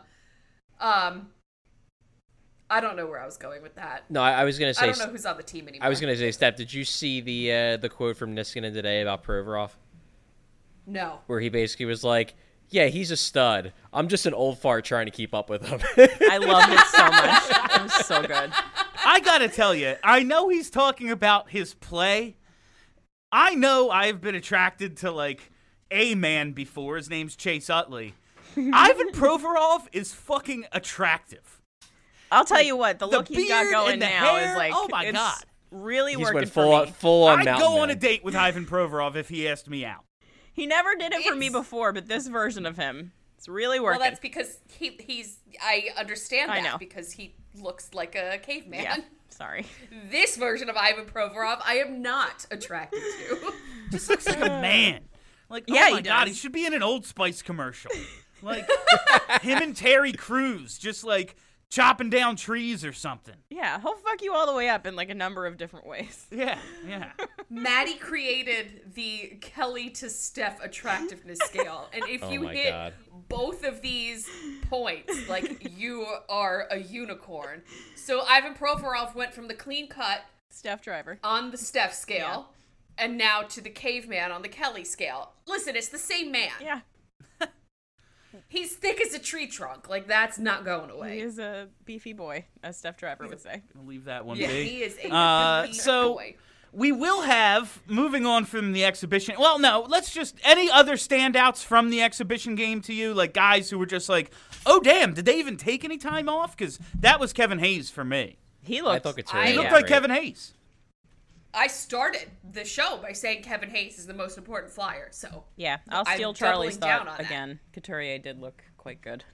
I don't know where I was going with that. No, I was going to say... I don't know who's on the team anymore. I was going to say, Steph, did you see the quote from Niskanen today about Provorov? No. Where he basically was like, yeah, he's a stud. I'm just an old fart trying to keep up with him. I loved it so much. It was so good. I gotta tell you, I know he's talking about his play. I know I've been attracted to, like, a man before. His name's Chase Utley. Ivan Provorov is fucking attractive. I'll tell you what, the The look he's got beard going and the now hair, is like, oh my it's God. really He's working went for me. full on I'd Mountain go on Man. a date with Ivan Provorov if he asked me out. He never did it for me It's- before, but this version of him, it's really working. Well, that's because he's. I understand I that know. because he looks like a caveman. yeah, sorry. This version of Ivan Provorov, I am not attracted to. Just looks like a man. Like, Yeah, oh my he God, does. he should be in an Old Spice commercial. Like, him and Terry Crews just, like, chopping down trees or something. Yeah, he'll fuck you all the way up in like a number of different ways. Yeah. Maddie created the Kelly to Steph attractiveness scale, and if Oh you my hit God. both of these points, like, you are a unicorn. So Ivan Provorov went from the clean cut Steph Driver. on the Steph scale, and now to the caveman on the Kelly scale. Listen, it's the same man. Yeah, He's thick as a tree trunk. Like, that's not going he away. is a beefy boy, as Steph Driver would say. We'll leave that one Yeah, be. he is a complete so boy. we will have, moving on from the exhibition, well, no, let's just, any other standouts from the exhibition game to you? Like, guys who were just like, oh, damn, did they even take any time off? Because that was Kevin Hayes for me. He I looked. thought Couturier He He was looked like great. Kevin Hayes. I started the show by saying Kevin Hayes is the most important Flyer, so Yeah, I'll I'm steal Charlie's doubling down thought on that. again. Couturier did look quite good,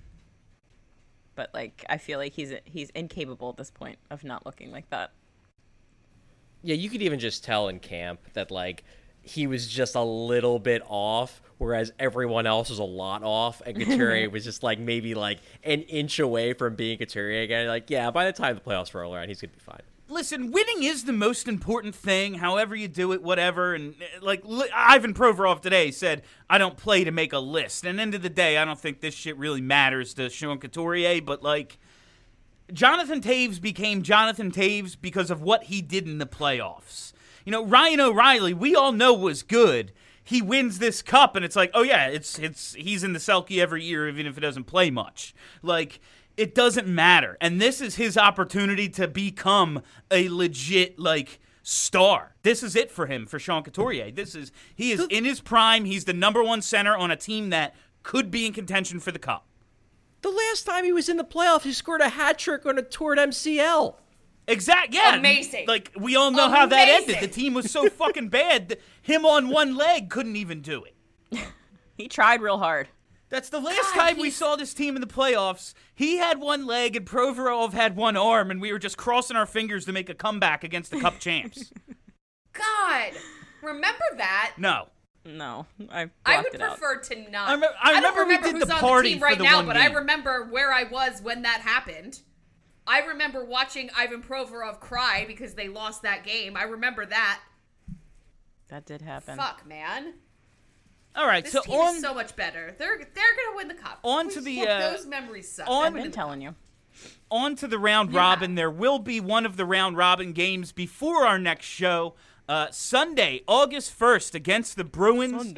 but like I feel like he's incapable at this point of not looking like that. Yeah, you could even just tell in camp that, like, he was just a little bit off, whereas everyone else was a lot off, and Couturier was just, like, maybe, like, an inch away from being Couturier again. Like, yeah, by the time the playoffs roll around, he's going to be fine. Listen, winning is the most important thing, however you do it, whatever. And, like, Ivan Provorov today said, I don't play to make a list. And end of the day, I don't think this shit really matters to Sean Couturier, but, like, Jonathan Taves became Jonathan Taves because of what he did in the playoffs. You know, Ryan O'Reilly, we all know was good. He wins this cup, and it's like, oh, yeah, he's in the Selke every year, even if it doesn't play much. Like, it doesn't matter. And this is his opportunity to become a legit, like, star. This is it for him, for Sean Couturier. He is in his prime. He's the number one center on a team that could be in contention for the cup. The last time he was in the playoffs, he scored a hat trick on a toured MCL. Exactly. Yeah. Amazing. Like, we all know how that Amazing. ended. The team was so fucking bad that him on one leg couldn't even do it. He tried real hard. That's the last time we saw this team in the playoffs. He had one leg and Provorov had one arm, and we were just crossing our fingers to make a comeback against the Cup champs. God, remember that? No. No, I blocked I would it out. prefer to not. I don't remember we remember did who's the on party team for right the now, one but game. I remember where I was when that happened. I remember watching Ivan Provorov cry because they lost that game. I remember that. That did happen. Fuck, man. All right, This so team is so much better. They're gonna win the cup. On to the those memories suck. on- I've been telling you. on to the round robin. There will be one of the round robin games before our next show. Sunday, August 1st, against the Bruins.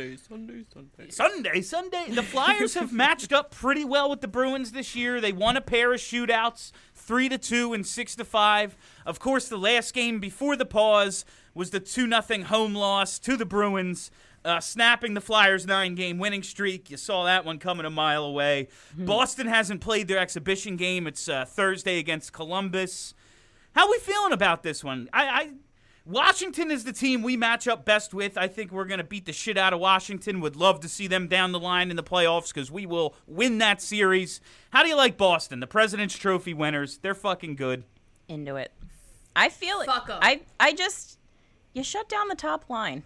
Sunday. The Flyers have matched up pretty well with the Bruins this year. They won a pair of shootouts, 3-2 and 6-5. Of course, the last game before the pause was the 2-0 home loss to the Bruins, snapping the Flyers' 9-game winning streak. You saw that one coming a mile away. Boston hasn't played their exhibition game. It's Thursday against Columbus. How are we feeling about this one? Washington is the team we match up best with. I think we're going to beat the shit out of Washington. Would love to see them down the line in the playoffs because we will win that series. How do you like Boston, the President's Trophy winners? They're fucking good. Into it. I feel it. Fuck 'em. I just, you shut down the top line.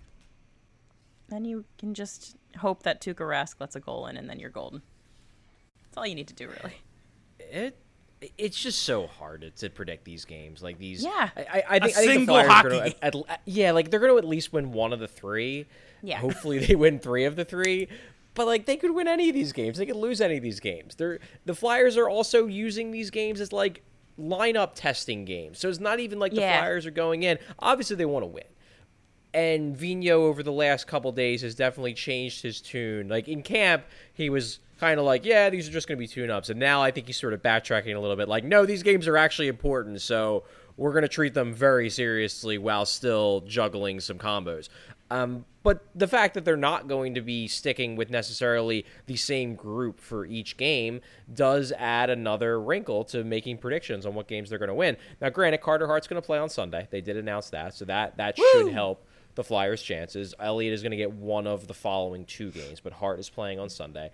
Then you can just hope that Tuukka Rask lets a goal in, and then you're golden. That's all you need to do, really. It's just so hard to predict these games. Like these, Yeah. I think the single Flyers are hockey gonna, like they're going to at least win one of the three. Yeah. Hopefully they win 3 of the 3. But like they could win any of these games. They could lose any of these games. The Flyers are also using these games as like lineup testing games. So it's not even like the Flyers are going in. Obviously they want to win. And Vigneault over the last couple days has definitely changed his tune. Like in camp, he was kind of like, yeah, these are just going to be tune-ups. And now I think he's sort of backtracking a little bit. Like, no, these games are actually important, so we're going to treat them very seriously while still juggling some combos. But the fact that they're not going to be sticking with necessarily the same group for each game does add another wrinkle to making predictions on what games they're going to win. Now, granted, Carter Hart's going to play on Sunday. They did announce that, so that should help the Flyers' chances. Elliott is going to get one of the following 2 games, but Hart is playing on Sunday.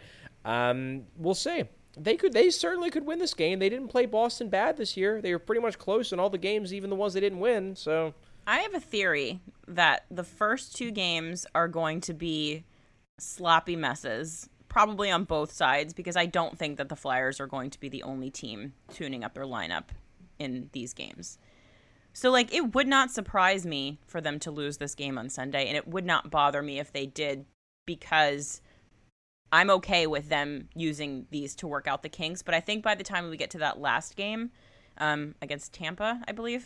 We'll see. They certainly could win this game. They didn't play Boston bad this year. They were pretty much close in all the games, even the ones they didn't win. So I have a theory that the first 2 games are going to be sloppy messes, probably on both sides, because I don't think that the Flyers are going to be the only team tuning up their lineup in these games. So, like, it would not surprise me for them to lose this game on Sunday, and it would not bother me if they did, because I'm okay with them using these to work out the kinks. But I think by the time we get to that last game against Tampa, I believe,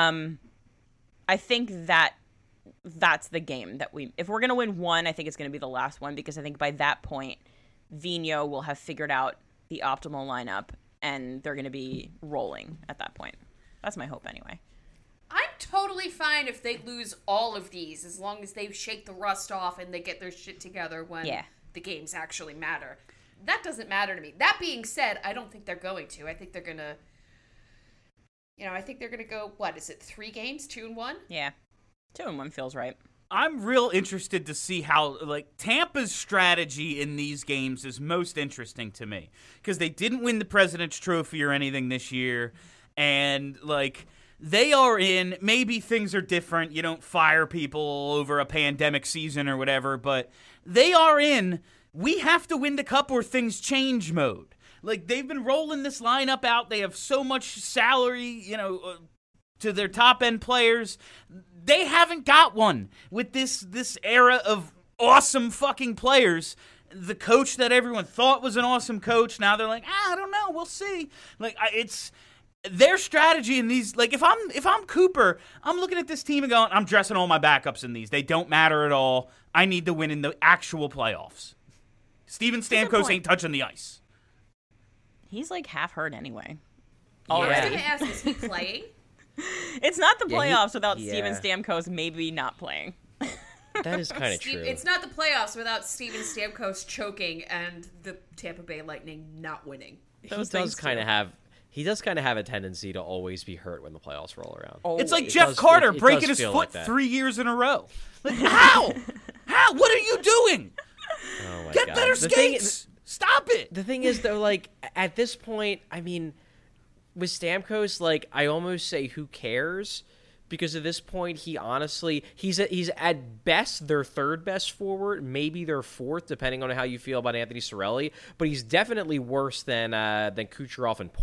I think that's the game that if we're going to win one, I think it's going to be the last one, because I think by that point, Vigneault will have figured out the optimal lineup, and they're going to be rolling at that point. That's my hope anyway. I'm totally fine if they lose all of these, as long as they shake the rust off and they get their shit together when the games actually matter. That doesn't matter to me. That being said, I don't think they're going to. I think they're going to, go, what is it, 3 games, 2-1? Yeah. 2-1 feels right. I'm real interested to see how, like, Tampa's strategy in these games is most interesting to me, because they didn't win the President's Trophy or anything this year, and, like, they are in, maybe things are different, you don't fire people over a pandemic season or whatever, but they are in, we have to win the cup or things change mode. Like, they've been rolling this lineup out, they have so much salary, to their top-end players. They haven't got one with this era of awesome fucking players. The coach that everyone thought was an awesome coach, now they're like, I don't know, we'll see. Like, it's their strategy in these. Like, if I'm Cooper, I'm looking at this team and going, I'm dressing all my backups in these. They don't matter at all. I need to win in the actual playoffs. Steven Stamkos ain't touching the ice. He's like half hurt anyway. I was going to ask, is he playing? It's not the playoffs without Steven Stamkos maybe not playing. That is kind of true. It's not the playoffs without Steven Stamkos choking and the Tampa Bay Lightning not winning. He does kind of have a tendency to always be hurt when the playoffs roll around. It's like Jeff Carter breaking his foot like 3 years in a row. Like, how? How? What are you doing? Oh my Get God. better skates. Stop it. The thing is, though, like, at this point, I mean, with Stamkos, like, I almost say who cares? Because at this point, he's at best their 3rd best forward, maybe their 4th, depending on how you feel about Anthony Cirelli. But he's definitely worse than Kucherov and Point.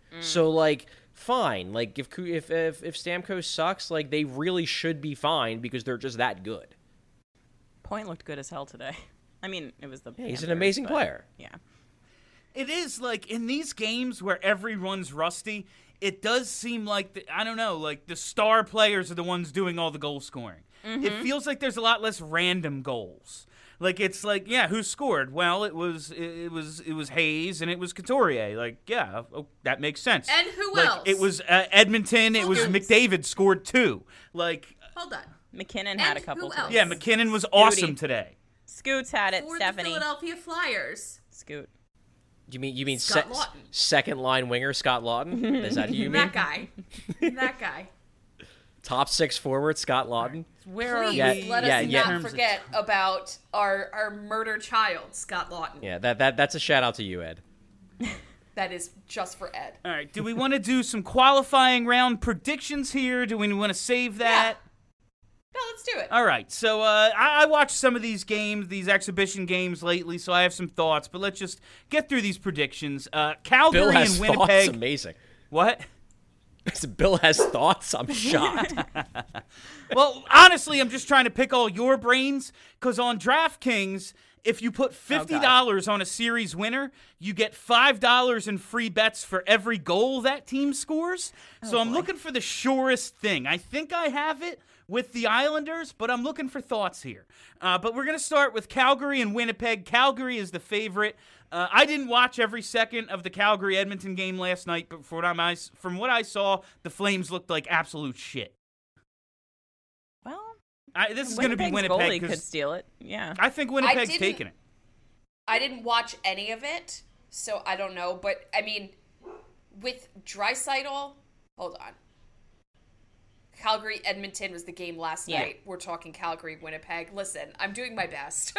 So like, fine. Like if Stamkos sucks, like they really should be fine because they're just that good. Point looked good as hell today. I mean, it was the. Yeah, he's an Panthers, amazing but, player. Yeah. It is like in these games where everyone's rusty, it does seem like I don't know, like the star players are the ones doing all the goal scoring. It feels like there's a lot less random goals. Like it's like, yeah, who scored? Well, it was Hayes and it was Couturier. Like, yeah, that makes sense. And who like, else? It was Edmonton. It was McDavid scored 2. Like, Hold on. McKinnon had a And couple. who today. else? yeah, McKinnon was awesome today. Scoots had it. For Stephanie. the Philadelphia Flyers. Scoot. You mean Scott Laughton. second line winger Scott Laughton? Is that who you mean? That guy. That guy. Top 6 forward Scott Laughton. Where Please Yeah, let yeah, us yeah. not forget about our murder child, Scott Laughton. Yeah, that's a shout out to you, Ed. That is just for Ed. All right, do we want to do some qualifying round predictions here? Do we want to save that? No, let's do it. All right, so I watched some of these games, these exhibition games lately, so I have some thoughts, but let's just get through these predictions. Calgary Bill has and thoughts. Winnipeg. Amazing. What? Bill has thoughts. I'm shocked. Well, honestly, I'm just trying to pick all your brains, because on DraftKings, if you put $50 on a series winner, you get $5 in free bets for every goal that team scores. So I'm looking for the surest thing. I think I have it with the Islanders, but I'm looking for thoughts here. But we're going to start with Calgary and Winnipeg. Calgary is the favorite. I didn't watch every second of the Calgary-Edmonton game last night, but from what I saw, the Flames looked like absolute shit. Well, This is going to be Winnipeg. Goalie could steal it. Yeah. I think Winnipeg's taking it. I didn't watch any of it, so I don't know. But, I mean, with Draisaitl, hold on. Calgary-Edmonton was the game last night. We're talking Calgary-Winnipeg. Listen, I'm doing my best.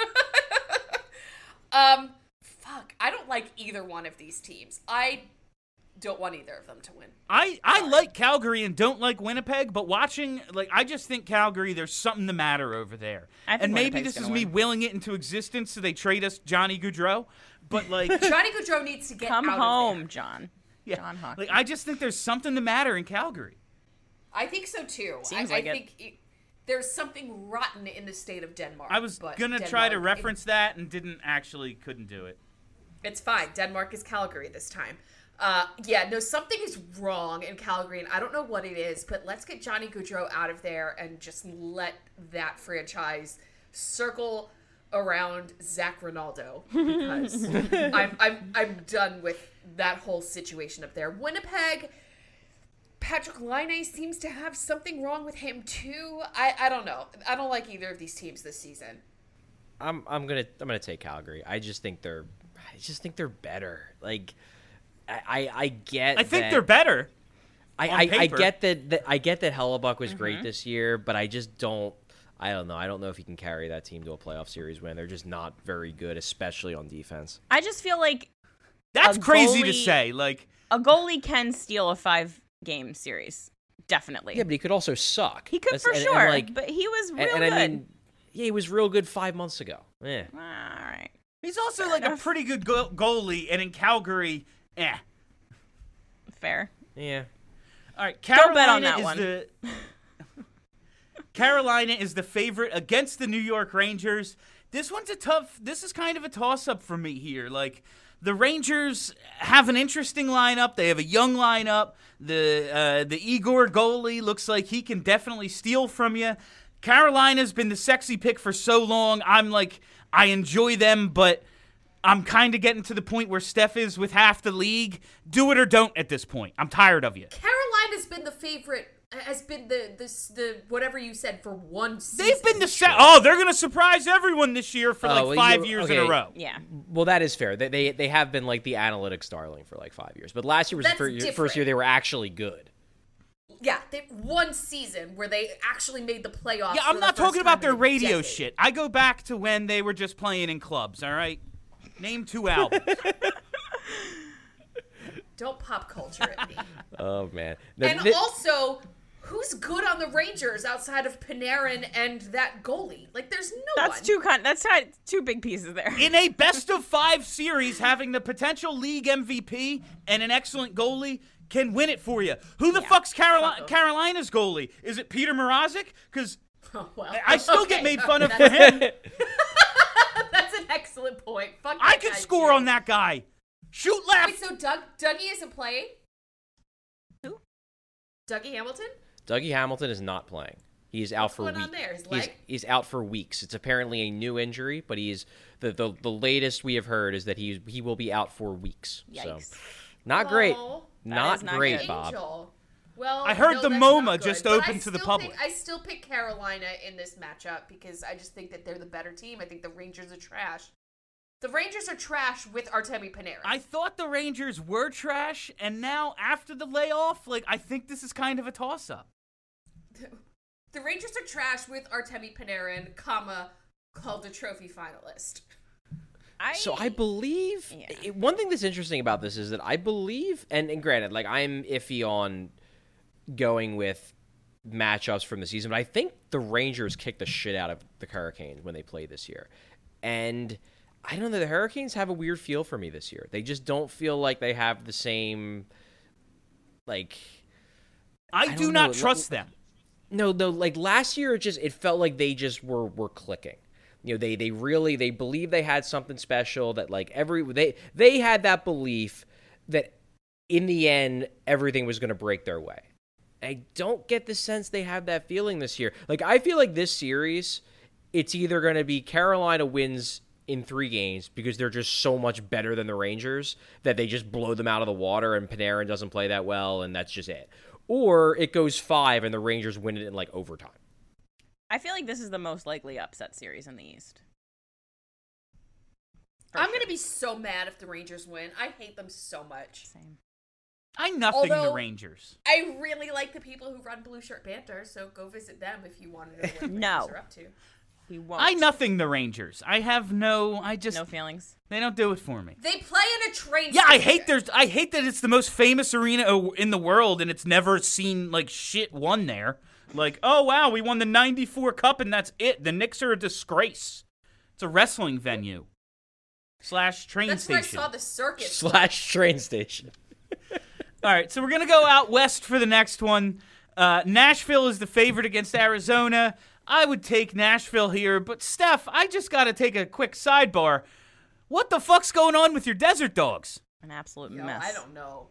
Fuck, I don't like either one of these teams. I don't want either of them to win. I like Calgary and don't like Winnipeg, but watching, I just think Calgary, there's something the matter over there. And maybe Winnipeg's this is gonna me win. willing it into existence so they trade us Johnny Gaudreau, but Johnny Gaudreau needs to get Come out home, of there. John. yeah, John Hockey. I just think there's something the matter in Calgary. I think so, too. Seems I like think there's something rotten in the state of Denmark. I was but going to try to Denmark- reference that and couldn't do it. It's fine. Denmark is Calgary this time. Something is wrong in Calgary, and I don't know what it is, but let's get Johnny Gaudreau out of there and just let that franchise circle around Zach Ronaldo, because I'm done with that whole situation up there. Winnipeg, Patrick Laine seems to have something wrong with him too. I don't know. I don't like either of these teams this season. I'm gonna take Calgary. I just think they're better. Like I get. I think that- they're better. I paper. get that. I get that Hellebuck was great this year, but I just don't. I don't know. I don't know if he can carry that team to a playoff series win. They're just not very good, especially on defense. I just feel like That's A crazy to goalie- say. a goalie can steal a 5-game series. Definitely. Yeah, but he could also suck. He could for sure. But he was real good. I mean, yeah, he was real good 5 months ago. Yeah. All right. He's also a pretty good goalie, and in Calgary, Fair. Yeah. All right, Don't bet on Carolina that is one. Carolina is the favorite against the New York Rangers. This is kind of a toss-up for me here. The Rangers have an interesting lineup. They have a young lineup. The Igor goalie looks like he can definitely steal from you. Carolina's been the sexy pick for so long. I enjoy them, but I'm kind of getting to the point where Steph is with half the league. Do it or don't at this point. I'm tired of you. Carolina's been the favorite. Has been the whatever you said for one season. They've been they're going to surprise everyone this year for 5 years in a row. Yeah. Well, that is fair. They have been the analytics darling for 5 years. But last year was the first year they were actually good. Yeah, one season where they actually made the playoffs. Yeah, for I'm the not first talking about time their in a radio decade. shit. I go back to when they were just playing in clubs, all right? Name 2 albums. Don't pop culture at me. Oh, man. And also, who's good on the Rangers outside of Panarin and that goalie? There's no one. That's two big pieces there. In a best-of-5 series, having the potential league MVP and an excellent goalie, can win it for you. Who the fuck's Carolina's goalie? Is it Peter Mrazek? Because I still get made fun of for him. That's an excellent point. Fuck I that could guy, score too. on that guy. Shoot left. Wait, so Dougie isn't playing? Who? Dougie Hamilton? Dougie Hamilton is not playing. He's out for going weeks. on there? His leg? He's out for weeks. It's apparently a new injury, but he's the latest we have heard is that he will be out for weeks. Yikes. So, not great. Oh, Not not great, good. Bob. Angel. Well, I heard no, the that's MoMA not good, just but opened I to the still public. I still pick Carolina in this matchup because I just think that they're the better team. I think the Rangers are trash. The Rangers are trash with Artemi Panarin. I thought the Rangers were trash, and now after the layoff, I think this is kind of a toss-up. The Rangers are trash with Artemi Panarin, called a trophy finalist. So I believe one thing that's interesting about this is that I believe, and granted, I'm iffy on going with matchups from the season, but I think the Rangers kicked the shit out of the Hurricanes when they played this year. And I don't know, the Hurricanes have a weird feel for me this year. They just don't feel like they have the same, I do not trust them. No, last year it felt like they just were clicking. They believe they had something special that they had that belief that in the end everything was going to break their way. I don't get the sense they have that feeling this year. I feel like this series, it's either going to be Carolina wins in 3 games because they're just so much better than the Rangers that they just blow them out of the water and Panarin doesn't play that well and that's just it. Or it goes 5 and the Rangers win it in overtime. I feel like this is the most likely upset series in the East. I'm going to be so mad if the Rangers win. I hate them so much. Same. I nothing the Rangers. I really like the people who run Blue Shirt Banter, so go visit them if you want to know what the Rangers are up to. He won't. I nothing the Rangers. I have no feelings. They don't do it for me. They play in a train Yeah, station. I hate that it's the most famous arena in the world and it's never seen shit won there. Oh wow, we won the 94 Cup and that's it. The Knicks are a disgrace. It's a wrestling venue. / train station. That's where I saw the circus. / train station. All right, so we're going to go out west for the next one. Nashville is the favorite against Arizona. I would take Nashville here, but Steph, I just got to take a quick sidebar. What the fuck's going on with your Desert Dogs? An absolute Yo, mess. I don't know.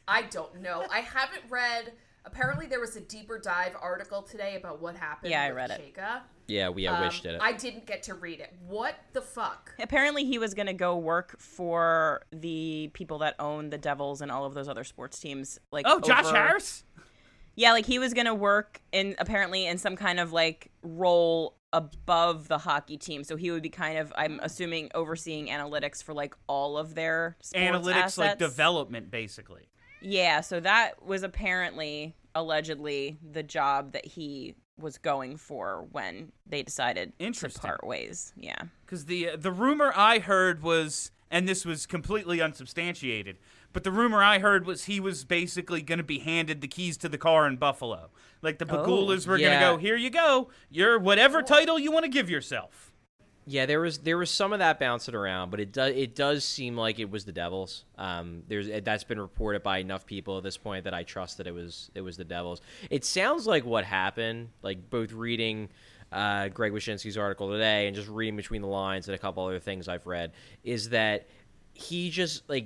I haven't read. Apparently, there was a deeper dive article today about what happened. Yeah, I with read it. Shaka. Yeah, Wish did it. I didn't get to read it. What the fuck? Apparently, he was going to go work for the people that own the Devils and all of those other sports teams. Josh Harris? Yeah, he was going to work in some kind of role above the hockey team. So he would be kind of, I'm assuming, overseeing analytics for all of their sports Analytics, assets. development, basically. Yeah, so that was allegedly, the job that he was going for when they decided to part ways. Yeah. Because the rumor I heard was, and this was completely unsubstantiated, but the rumor I heard was he was basically going to be handed the keys to the car in Buffalo. The Pagulas were going to go, here you go, you're whatever title you want to give yourself. Yeah, there was some of that bouncing around, but it does seem like it was the Devils. That's been reported by enough people at this point that I trust that it was the Devils. It sounds like what happened, both reading Greg Wyshynski's article today and just reading between the lines and a couple other things I've read, is that he just when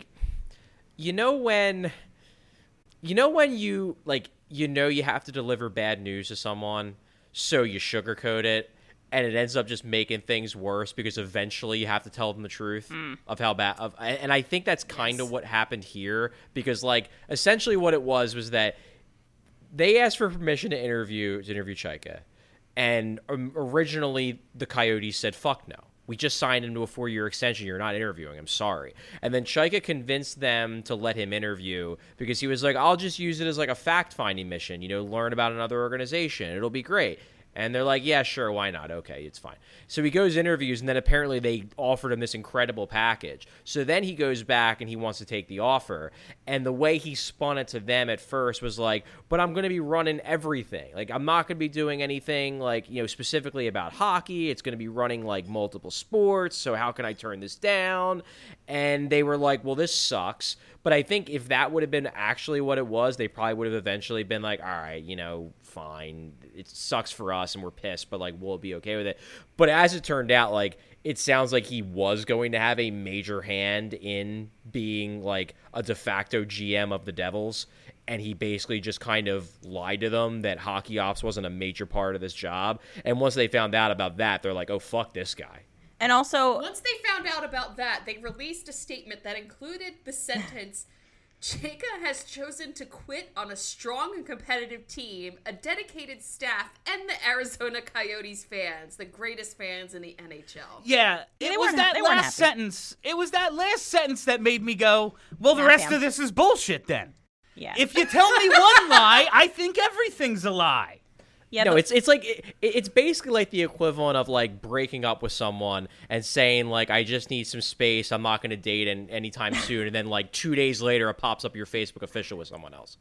you have to deliver bad news to someone, so you sugarcoat it. And it ends up just making things worse because eventually you have to tell them the truth of how bad. And I think that's kind of what happened here because, essentially what it was that they asked for permission to interview Chaika. And originally the Coyotes said, fuck no. We just signed him to a 4-year extension. You're not interviewing him. Sorry. And then Chaika convinced them to let him interview because he was like, I'll just use it as a fact-finding mission, learn about another organization. It'll be great. And they're like, yeah, sure, why not? Okay, it's fine. So he goes interviews, and then apparently they offered him this incredible package. So then he goes back and he wants to take the offer. And the way he spun it to them at first was but I'm going to be running everything. I'm not going to be doing anything specifically about hockey. It's going to be running multiple sports. So how can I turn this down? And they were like, well, this sucks. But I think if that would have been actually what it was, they probably would have eventually been like, all right, fine. It sucks for us and we're pissed, but like, we'll be okay with it. But as it turned out, like, it sounds like he was going to have a major hand in being like a de facto GM of the Devils. And he basically just kind of lied to them that hockey ops wasn't a major part of this job. And once they found out about that, they're like, oh, fuck this guy. And also, once they found out about that, they released a statement that included the sentence, Chayka has chosen to quit on a strong and competitive team, a dedicated staff, and the Arizona Coyotes fans, the greatest fans in the NHL. Yeah, it was that last sentence. It was that last sentence that made me go, well, the rest of this is bullshit then. Yeah. If you tell me one lie, I think everything's a lie. Yeah, no, it's like it's basically like the equivalent of like breaking up with someone and saying like, I just need some space, I'm not going to date anytime soon, and then like 2 days later it pops up your Facebook official with someone else.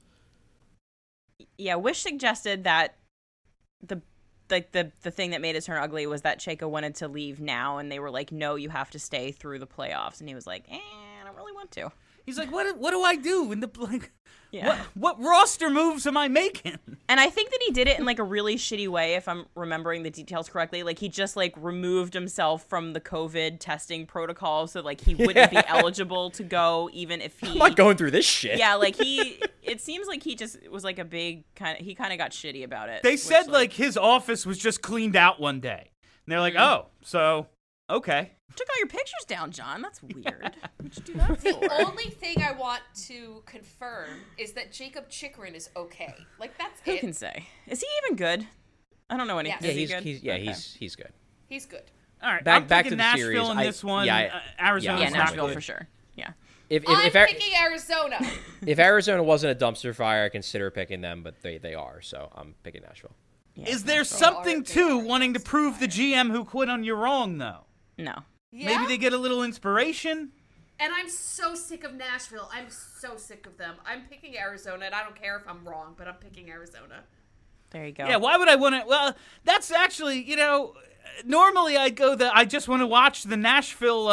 Yeah, Wish suggested that the thing that made it turn ugly was that Chayka wanted to leave now, and they were like, no, you have to stay through the playoffs, and he was like, I don't really want to. He's like, what do I do in the like? Yeah. What roster moves am I making? And I think that he did it in like a really shitty way, if I'm remembering the details correctly. Like he just like removed himself from the COVID testing protocol, so like he wouldn't be eligible to go, even if he. I'm not going through this shit. Yeah, like it seems like he just was like a big he kind of got shitty about it. They said like his office was just cleaned out one day, and they're like, oh, so okay. Took all your pictures down, John. That's weird. What'd you do that for? The only thing I want to confirm is that Jacob Chikrin is okay. Like, that's Who can say? Is he even good? I don't know anything. Yes. Is he good? He's good. He's good. All right, back I'm to picking the Nashville series. in this one. Arizona's Yeah, not Nashville good. for sure. Yeah. I'm picking Arizona. If Arizona wasn't a dumpster fire, I consider picking them, but they are, so I'm picking Nashville. Yeah, Is there Nashville. something to wanting to prove the GM who quit on you wrong, though? No. Yeah? Maybe they get a little inspiration? And I'm so sick of Nashville. I'm so sick of them. I'm picking Arizona, and I don't care if I'm wrong, but I'm picking Arizona. There you go. Yeah, why would I want to? Well, that's actually, normally I'd go I just want to watch the Nashville,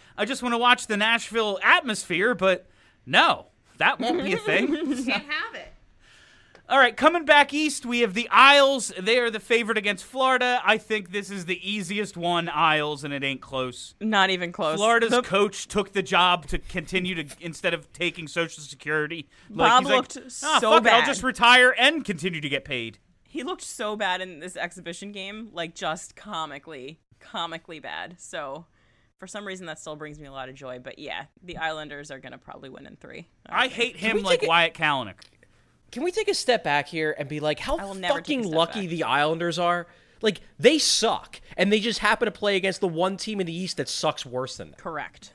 atmosphere, but no, that won't be a thing. Can't have it. All right, coming back east, we have the Isles. They are the favorite against Florida. I think this is the easiest one, Isles, and it ain't close. Not even close. Florida's coach took the job to continue to, instead of taking Social Security. Bob he's looked like, so fuck it, bad. I'll just retire and continue to get paid. He looked so bad in this exhibition game, like just comically bad. So for some reason that still brings me a lot of joy. But yeah, the Islanders are going to probably win in 3. I hate him like Wyatt Kalanick. Can we take a step back here and be like, how I will never take a fucking step lucky back. the Islanders are? Like, they suck, and they just happen to play against the one team in the East that sucks worse than them. Correct.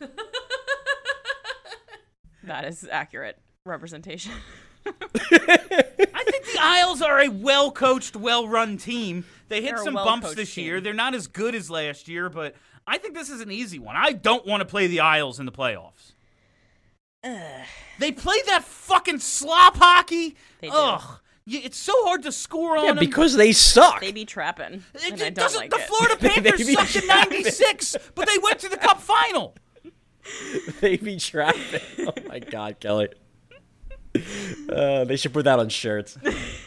That is accurate representation. I think the Isles are a well-coached, well-run team. They hit They're a some well-coached bumps this year. team. They're not as good as last year, but I think this is an easy one. I don't want to play the Isles in the playoffs. They play that fucking slop hockey. They do. Ugh. It's so hard to score on Yeah, them. because they suck. They be trapping. It And I don't doesn't. like The it. Florida They Panthers be sucked in trapping. '96, but they went to the Cup final. They be trapping. Oh my God, Kelly. They should put that on shirts.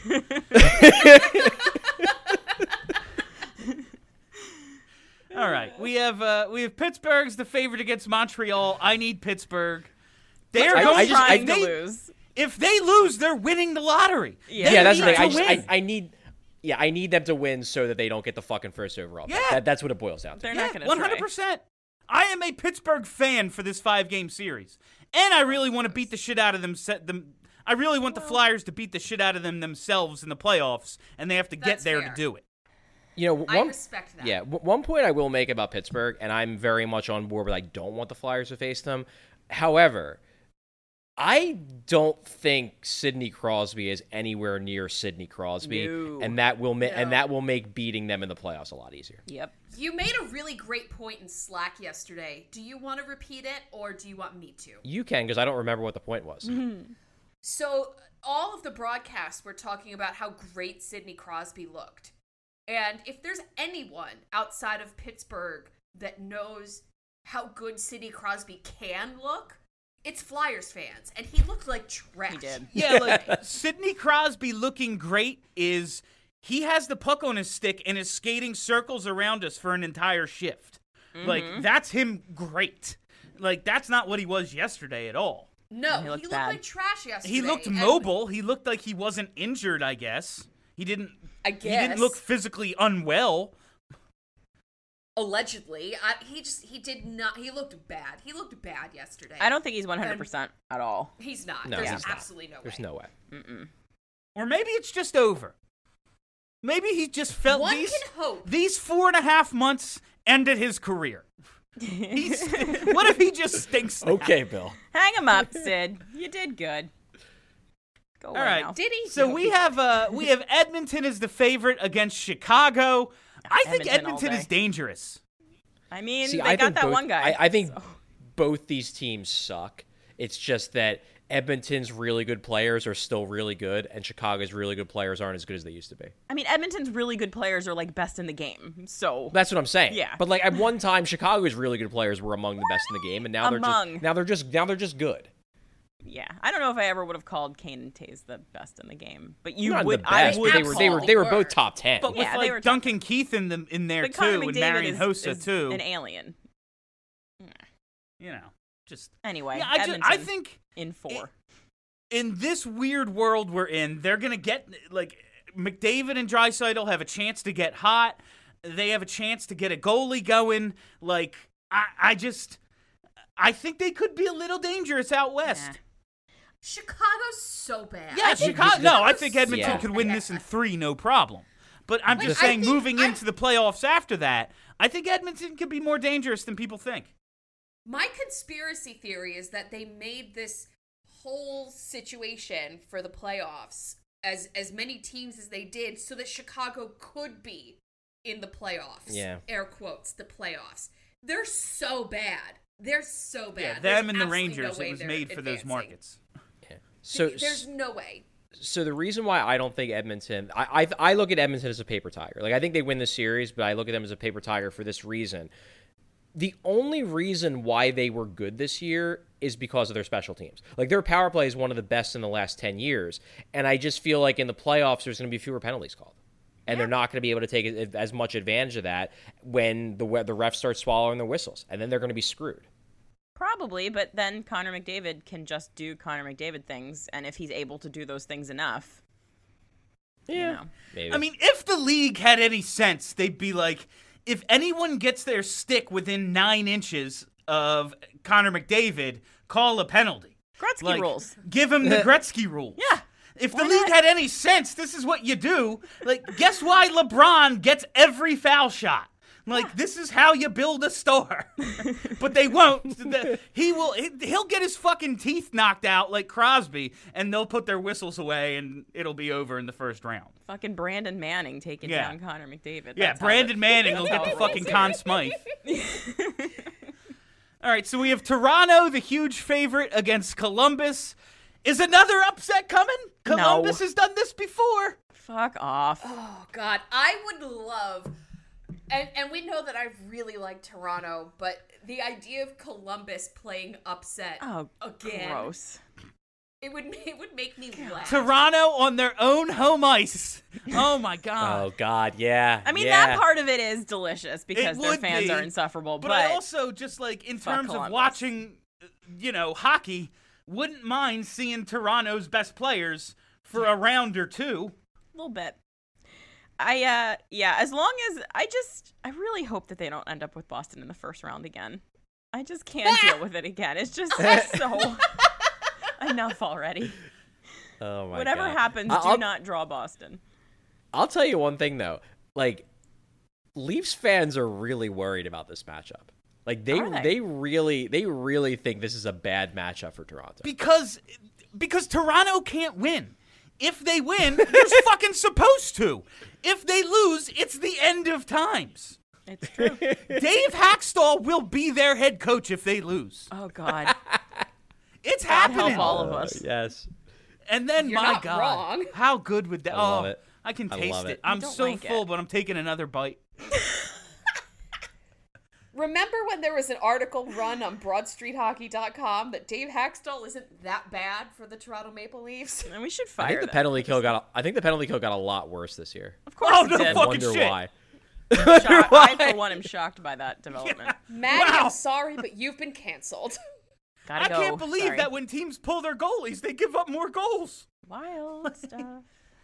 All right, we have Pittsburgh's the favorite against Montreal. I need Pittsburgh. They're I'm going trying to to lose. If they lose, they're winning the lottery. Yeah. They Yeah, that's the need thing. to win. I need them to win so that they don't get the fucking first overall. pick. Yeah. That's what it boils down to. They're not going to try. 100%. I am a Pittsburgh fan for this 5-game series, and I really want to beat the shit out of them. I really want the Flyers to beat the shit out of them themselves in the playoffs, and they have to get That's there fair. to do it. You know, I respect that. Yeah, one point I will make about Pittsburgh, and I'm very much on board with I don't want the Flyers to face them. However, I don't think Sidney Crosby is anywhere near Sidney Crosby, No. and that will make beating them in the playoffs a lot easier. Yep. You made a really great point in Slack yesterday. Do you want to repeat it, or do you want me to? You can, because I don't remember what the point was. So all of the broadcasts were talking about how great Sidney Crosby looked. And if there's anyone outside of Pittsburgh that knows how good Sidney Crosby can look, it's Flyers fans, and he looked like trash. He did. Yeah, like Sidney Crosby looking great is he has the puck on his stick and is skating circles around us for an entire shift. Like, that's him great. Like, that's not what he was yesterday at all. No, He looked looked bad. like trash yesterday. He looked and- mobile. He looked like he wasn't injured, I guess. He didn't I He didn't guess. look physically unwell. Allegedly, he did not. He looked bad. He looked bad yesterday. I don't think he's 100% at all. He's not. No, There's he's not. absolutely no way. There's no way. Or maybe it's just over. Maybe he just felt One these can hope. these 4.5 months ended his career. What if he just stinks now? Okay, Bill. Hang him up, Sid. You did good. Go away All right. now. Did he? So No, we he- have Edmonton as the favorite against Chicago. I think Edmonton all Edmonton day. is dangerous. I mean, See, they I got think that both, one guy. I think so- both these teams suck. It's just that Edmonton's really good players are still really good, and Chicago's really good players aren't as good as they used to be. I mean, Edmonton's really good players are like best in the game. So That's what I'm saying. Yeah. But like at one time, Chicago's really good players were among the best in the game, and now they're just good. yeah, I don't know if I ever would have called Kane and Taze the best in the game, but you Not would. the best, I but would. they were were. both top 10. But with Yeah, they were like tough. Duncan Keith in there But Connor too, and McDavid Marian is Hossa too. an alien. You know, just Anyway, yeah. Edmonton I think in 4. in this weird world we're in, they're gonna get like McDavid and Draisaitl have a chance to get hot. They have a chance to get a goalie going. Like I think they could be a little dangerous out west. Nah. Chicago's so bad. Yeah, Chicago. No, I think Edmonton Yeah. could win this in 3, no problem. But I'm just I saying, think moving I'm- into the playoffs after that, I think Edmonton could be more dangerous than people think. My conspiracy theory is that they made this whole situation for the playoffs as many teams as they did so that Chicago could be in the playoffs. Yeah. Air quotes, the playoffs. They're so bad. They're so bad. Yeah, There's them and the absolutely Rangers. no way It was they're made for those advancing. markets. So There's no way. So the reason why I don't think Edmonton, I look at Edmonton as a paper tiger. Like I think they win the series, but I look at them as a paper tiger for this reason. The only reason why they were good this year is because of their special teams. Like their power play is one of the best in the last 10 years, and I just feel like in the playoffs there's going to be fewer penalties called. And they're not going to be able to take as much advantage of that when the refs start swallowing their whistles, and then they're going to be screwed. Probably, but then Connor McDavid can just do Connor McDavid things, and if he's able to do those things enough, you know. Maybe. I mean, if the league had any sense, they'd be like, if anyone gets their stick within 9 inches of Connor McDavid, call a penalty. Gretzky rules. Give him the Gretzky rules. Yeah. If the Why league not? had any sense, this is what you do. Like, guess why LeBron gets every foul shot? Like, this is how you build a star. But they won't. He'll get his fucking teeth knocked out like Crosby, and they'll put their whistles away, and it'll be over in the first round. Fucking Brandon Manning taking Yeah. down Connor McDavid. Yeah, That's how Brandon it- Manning will get how the it fucking works. Conn Smythe. All right, so we have Toronto, the huge favorite, against Columbus. Is another upset coming? Columbus has done this before. Fuck off. Oh God, I would love, and we know that I really like Toronto, but the idea of Columbus playing upset Oh, again, gross. it would make me laugh. Toronto on their own home ice. Oh my God. oh God, yeah. I mean, yeah. that part of it is delicious because their would fans be, are insufferable, But but I also just like in Fuck terms of Columbus. watching, hockey, wouldn't mind seeing Toronto's best players for a round or two. a little bit. As long as I really hope that they don't end up with Boston in the first round again. I just can't deal with it again. It's just so enough already. Oh my Whatever God. happens, I'll- do not draw Boston. I'll tell you one thing though. Like, Leafs fans are really worried about this matchup. Like Are they? they really think this is a bad matchup for Toronto. Because Toronto can't win. If they win, you're fucking supposed to. If they lose, it's the end of times. It's true. Dave Hackstall will be their head coach if they lose. Oh God. It's God happening. help all of us. Yes. And then, You're my not God, wrong. how good would that? I love it. I can I taste love it. it. I'm Don't so like full, it. but I'm taking another bite. Remember when there was an article run on BroadStreetHockey.com that Dave Haxtell isn't that bad for the Toronto Maple Leafs? And we should I fire think the them. penalty kill got. I think the penalty kill got a lot worse this year. Of course Oh, it no did. fucking Wonder shit. why. I, for one, am shocked by that development. Maddie, Wow. I'm sorry, but you've been canceled. Gotta I go. can't believe Sorry. that when teams pull their goalies, they give up more goals. Wild stuff.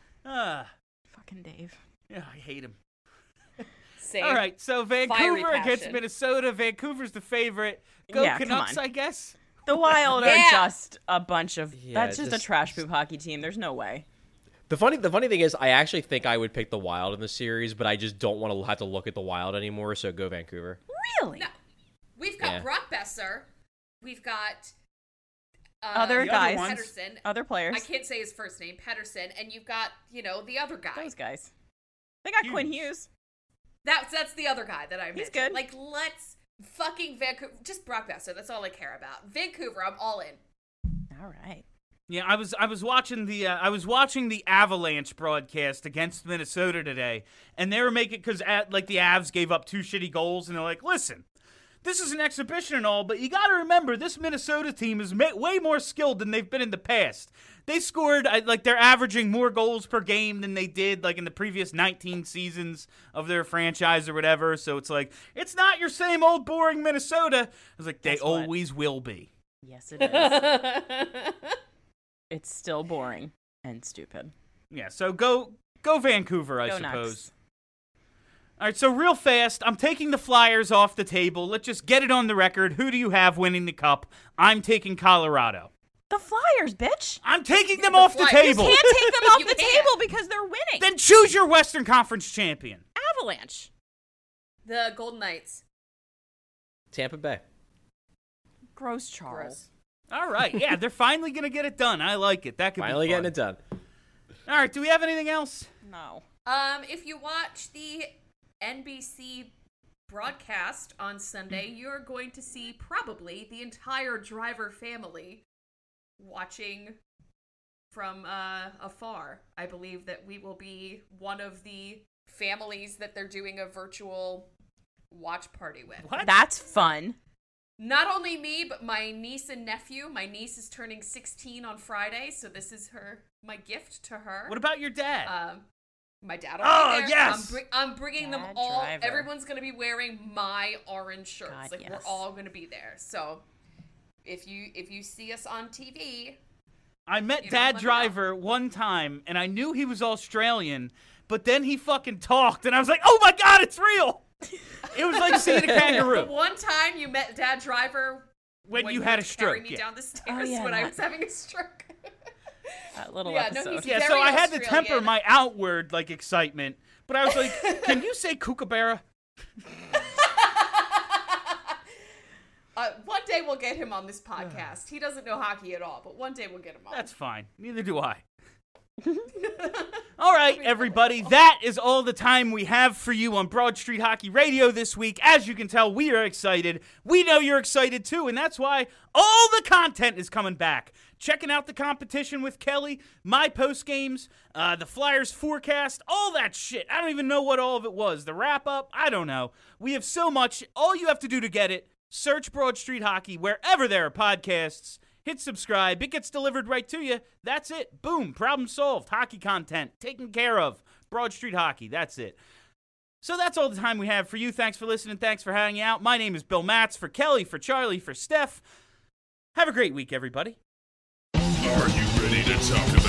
Fucking Dave. Yeah, I hate him. Same. All right, so Vancouver against passion. Minnesota. Vancouver's the favorite. Go Yeah, come Canucks, on. I guess. The Wild Yeah. are just a bunch of. Yeah, that's just a just- trash poop hockey team. There's no way. The funny thing is, I actually think I would pick the Wild in the series, but I just don't want to have to look at the Wild anymore. So go Vancouver. Really? No. We've got Yeah. Brock Besser. We've got Other other guys. ones. Pedersen. Other players. I can't say his first name, Pedersen, and you've got, the other guy. Those guys. They got Quinn Hughes. Hughes. That's the other guy that I mentioned. He's good. Like, let's fucking Vancouver. Just Brock Besser. That's all I care about. Vancouver, I'm all in. All right. Yeah, I was watching the Avalanche broadcast against Minnesota today, and they were making because the Avs gave up 2 shitty goals, and they're like, listen. This is an exhibition and all, but you got to remember this Minnesota team is way more skilled than they've been in the past. They scored, they're averaging more goals per game than they did, in the previous 19 seasons of their franchise or whatever. So it's it's not your same old boring Minnesota. I was like, they Guess what? always will be. Yes, it is. It's still boring and stupid. Yeah, so go Vancouver, I Go suppose. Nucks. All right, so real fast, I'm taking the Flyers off the table. Let's just get it on the record. Who do you have winning the cup? I'm taking Colorado. The Flyers, bitch. I'm taking them The off the Flyers. table. Can't take them off You the can't. table because they're winning. Then choose your Western Conference champion. Avalanche. The Golden Knights. Tampa Bay. Gross Charles. Gross. All right, yeah, they're finally going to get it done. I like it. That could Finally be fun. getting it done. All right, do we have anything else? No. If you watch the NBC broadcast on Sunday, you're going to see probably the entire Driver family watching from afar. I believe that we will be one of the families that they're doing a virtual watch party with. What? That's fun. Not only me, but my niece and nephew. My niece is turning 16 on Friday, so this is my gift to her. What about your dad? My dad will Oh, be there. yes! I'm bringing them Dad all. Driver. Everyone's going to be wearing my orange shirts. God, We're yes. all going to be there. So if you see us on TV, I met you know, Dad let me Driver one time, and I knew he was Australian, but then he fucking talked, and I was like, oh my God, it's real! It was like seeing a the kangaroo. one time you met Dad Driver When you you had were a stroke, carrying me yeah. down the stairs yeah, when I that- was having a stroke. That little Yeah, no, episode. he's- Yeah, so very I had to temper Australian. my outward, excitement, but I was like, can you say kookaburra? One day we'll get him on this podcast. He doesn't know hockey at all, but one day we'll get him on. That's fine. Neither do I. All right, everybody. That is all the time we have for you on Broad Street Hockey Radio this week. As you can tell, we are excited. We know you're excited too, and that's why all the content is coming back. Checking out the competition with Kelly, my post games, the Flyers forecast, all that shit. I don't even know what all of it was. The wrap up, I don't know. We have so much. All you have to do to get it, search Broad Street Hockey wherever there are podcasts. Hit subscribe. It gets delivered right to you. That's it. Boom. Problem solved. Hockey content taken care of. Broad Street Hockey. That's it. So that's all the time we have for you. Thanks for listening. Thanks for hanging out. My name is Bill Matz. For Kelly, for Charlie, for Steph. Have a great week, everybody. Are you ready to talk about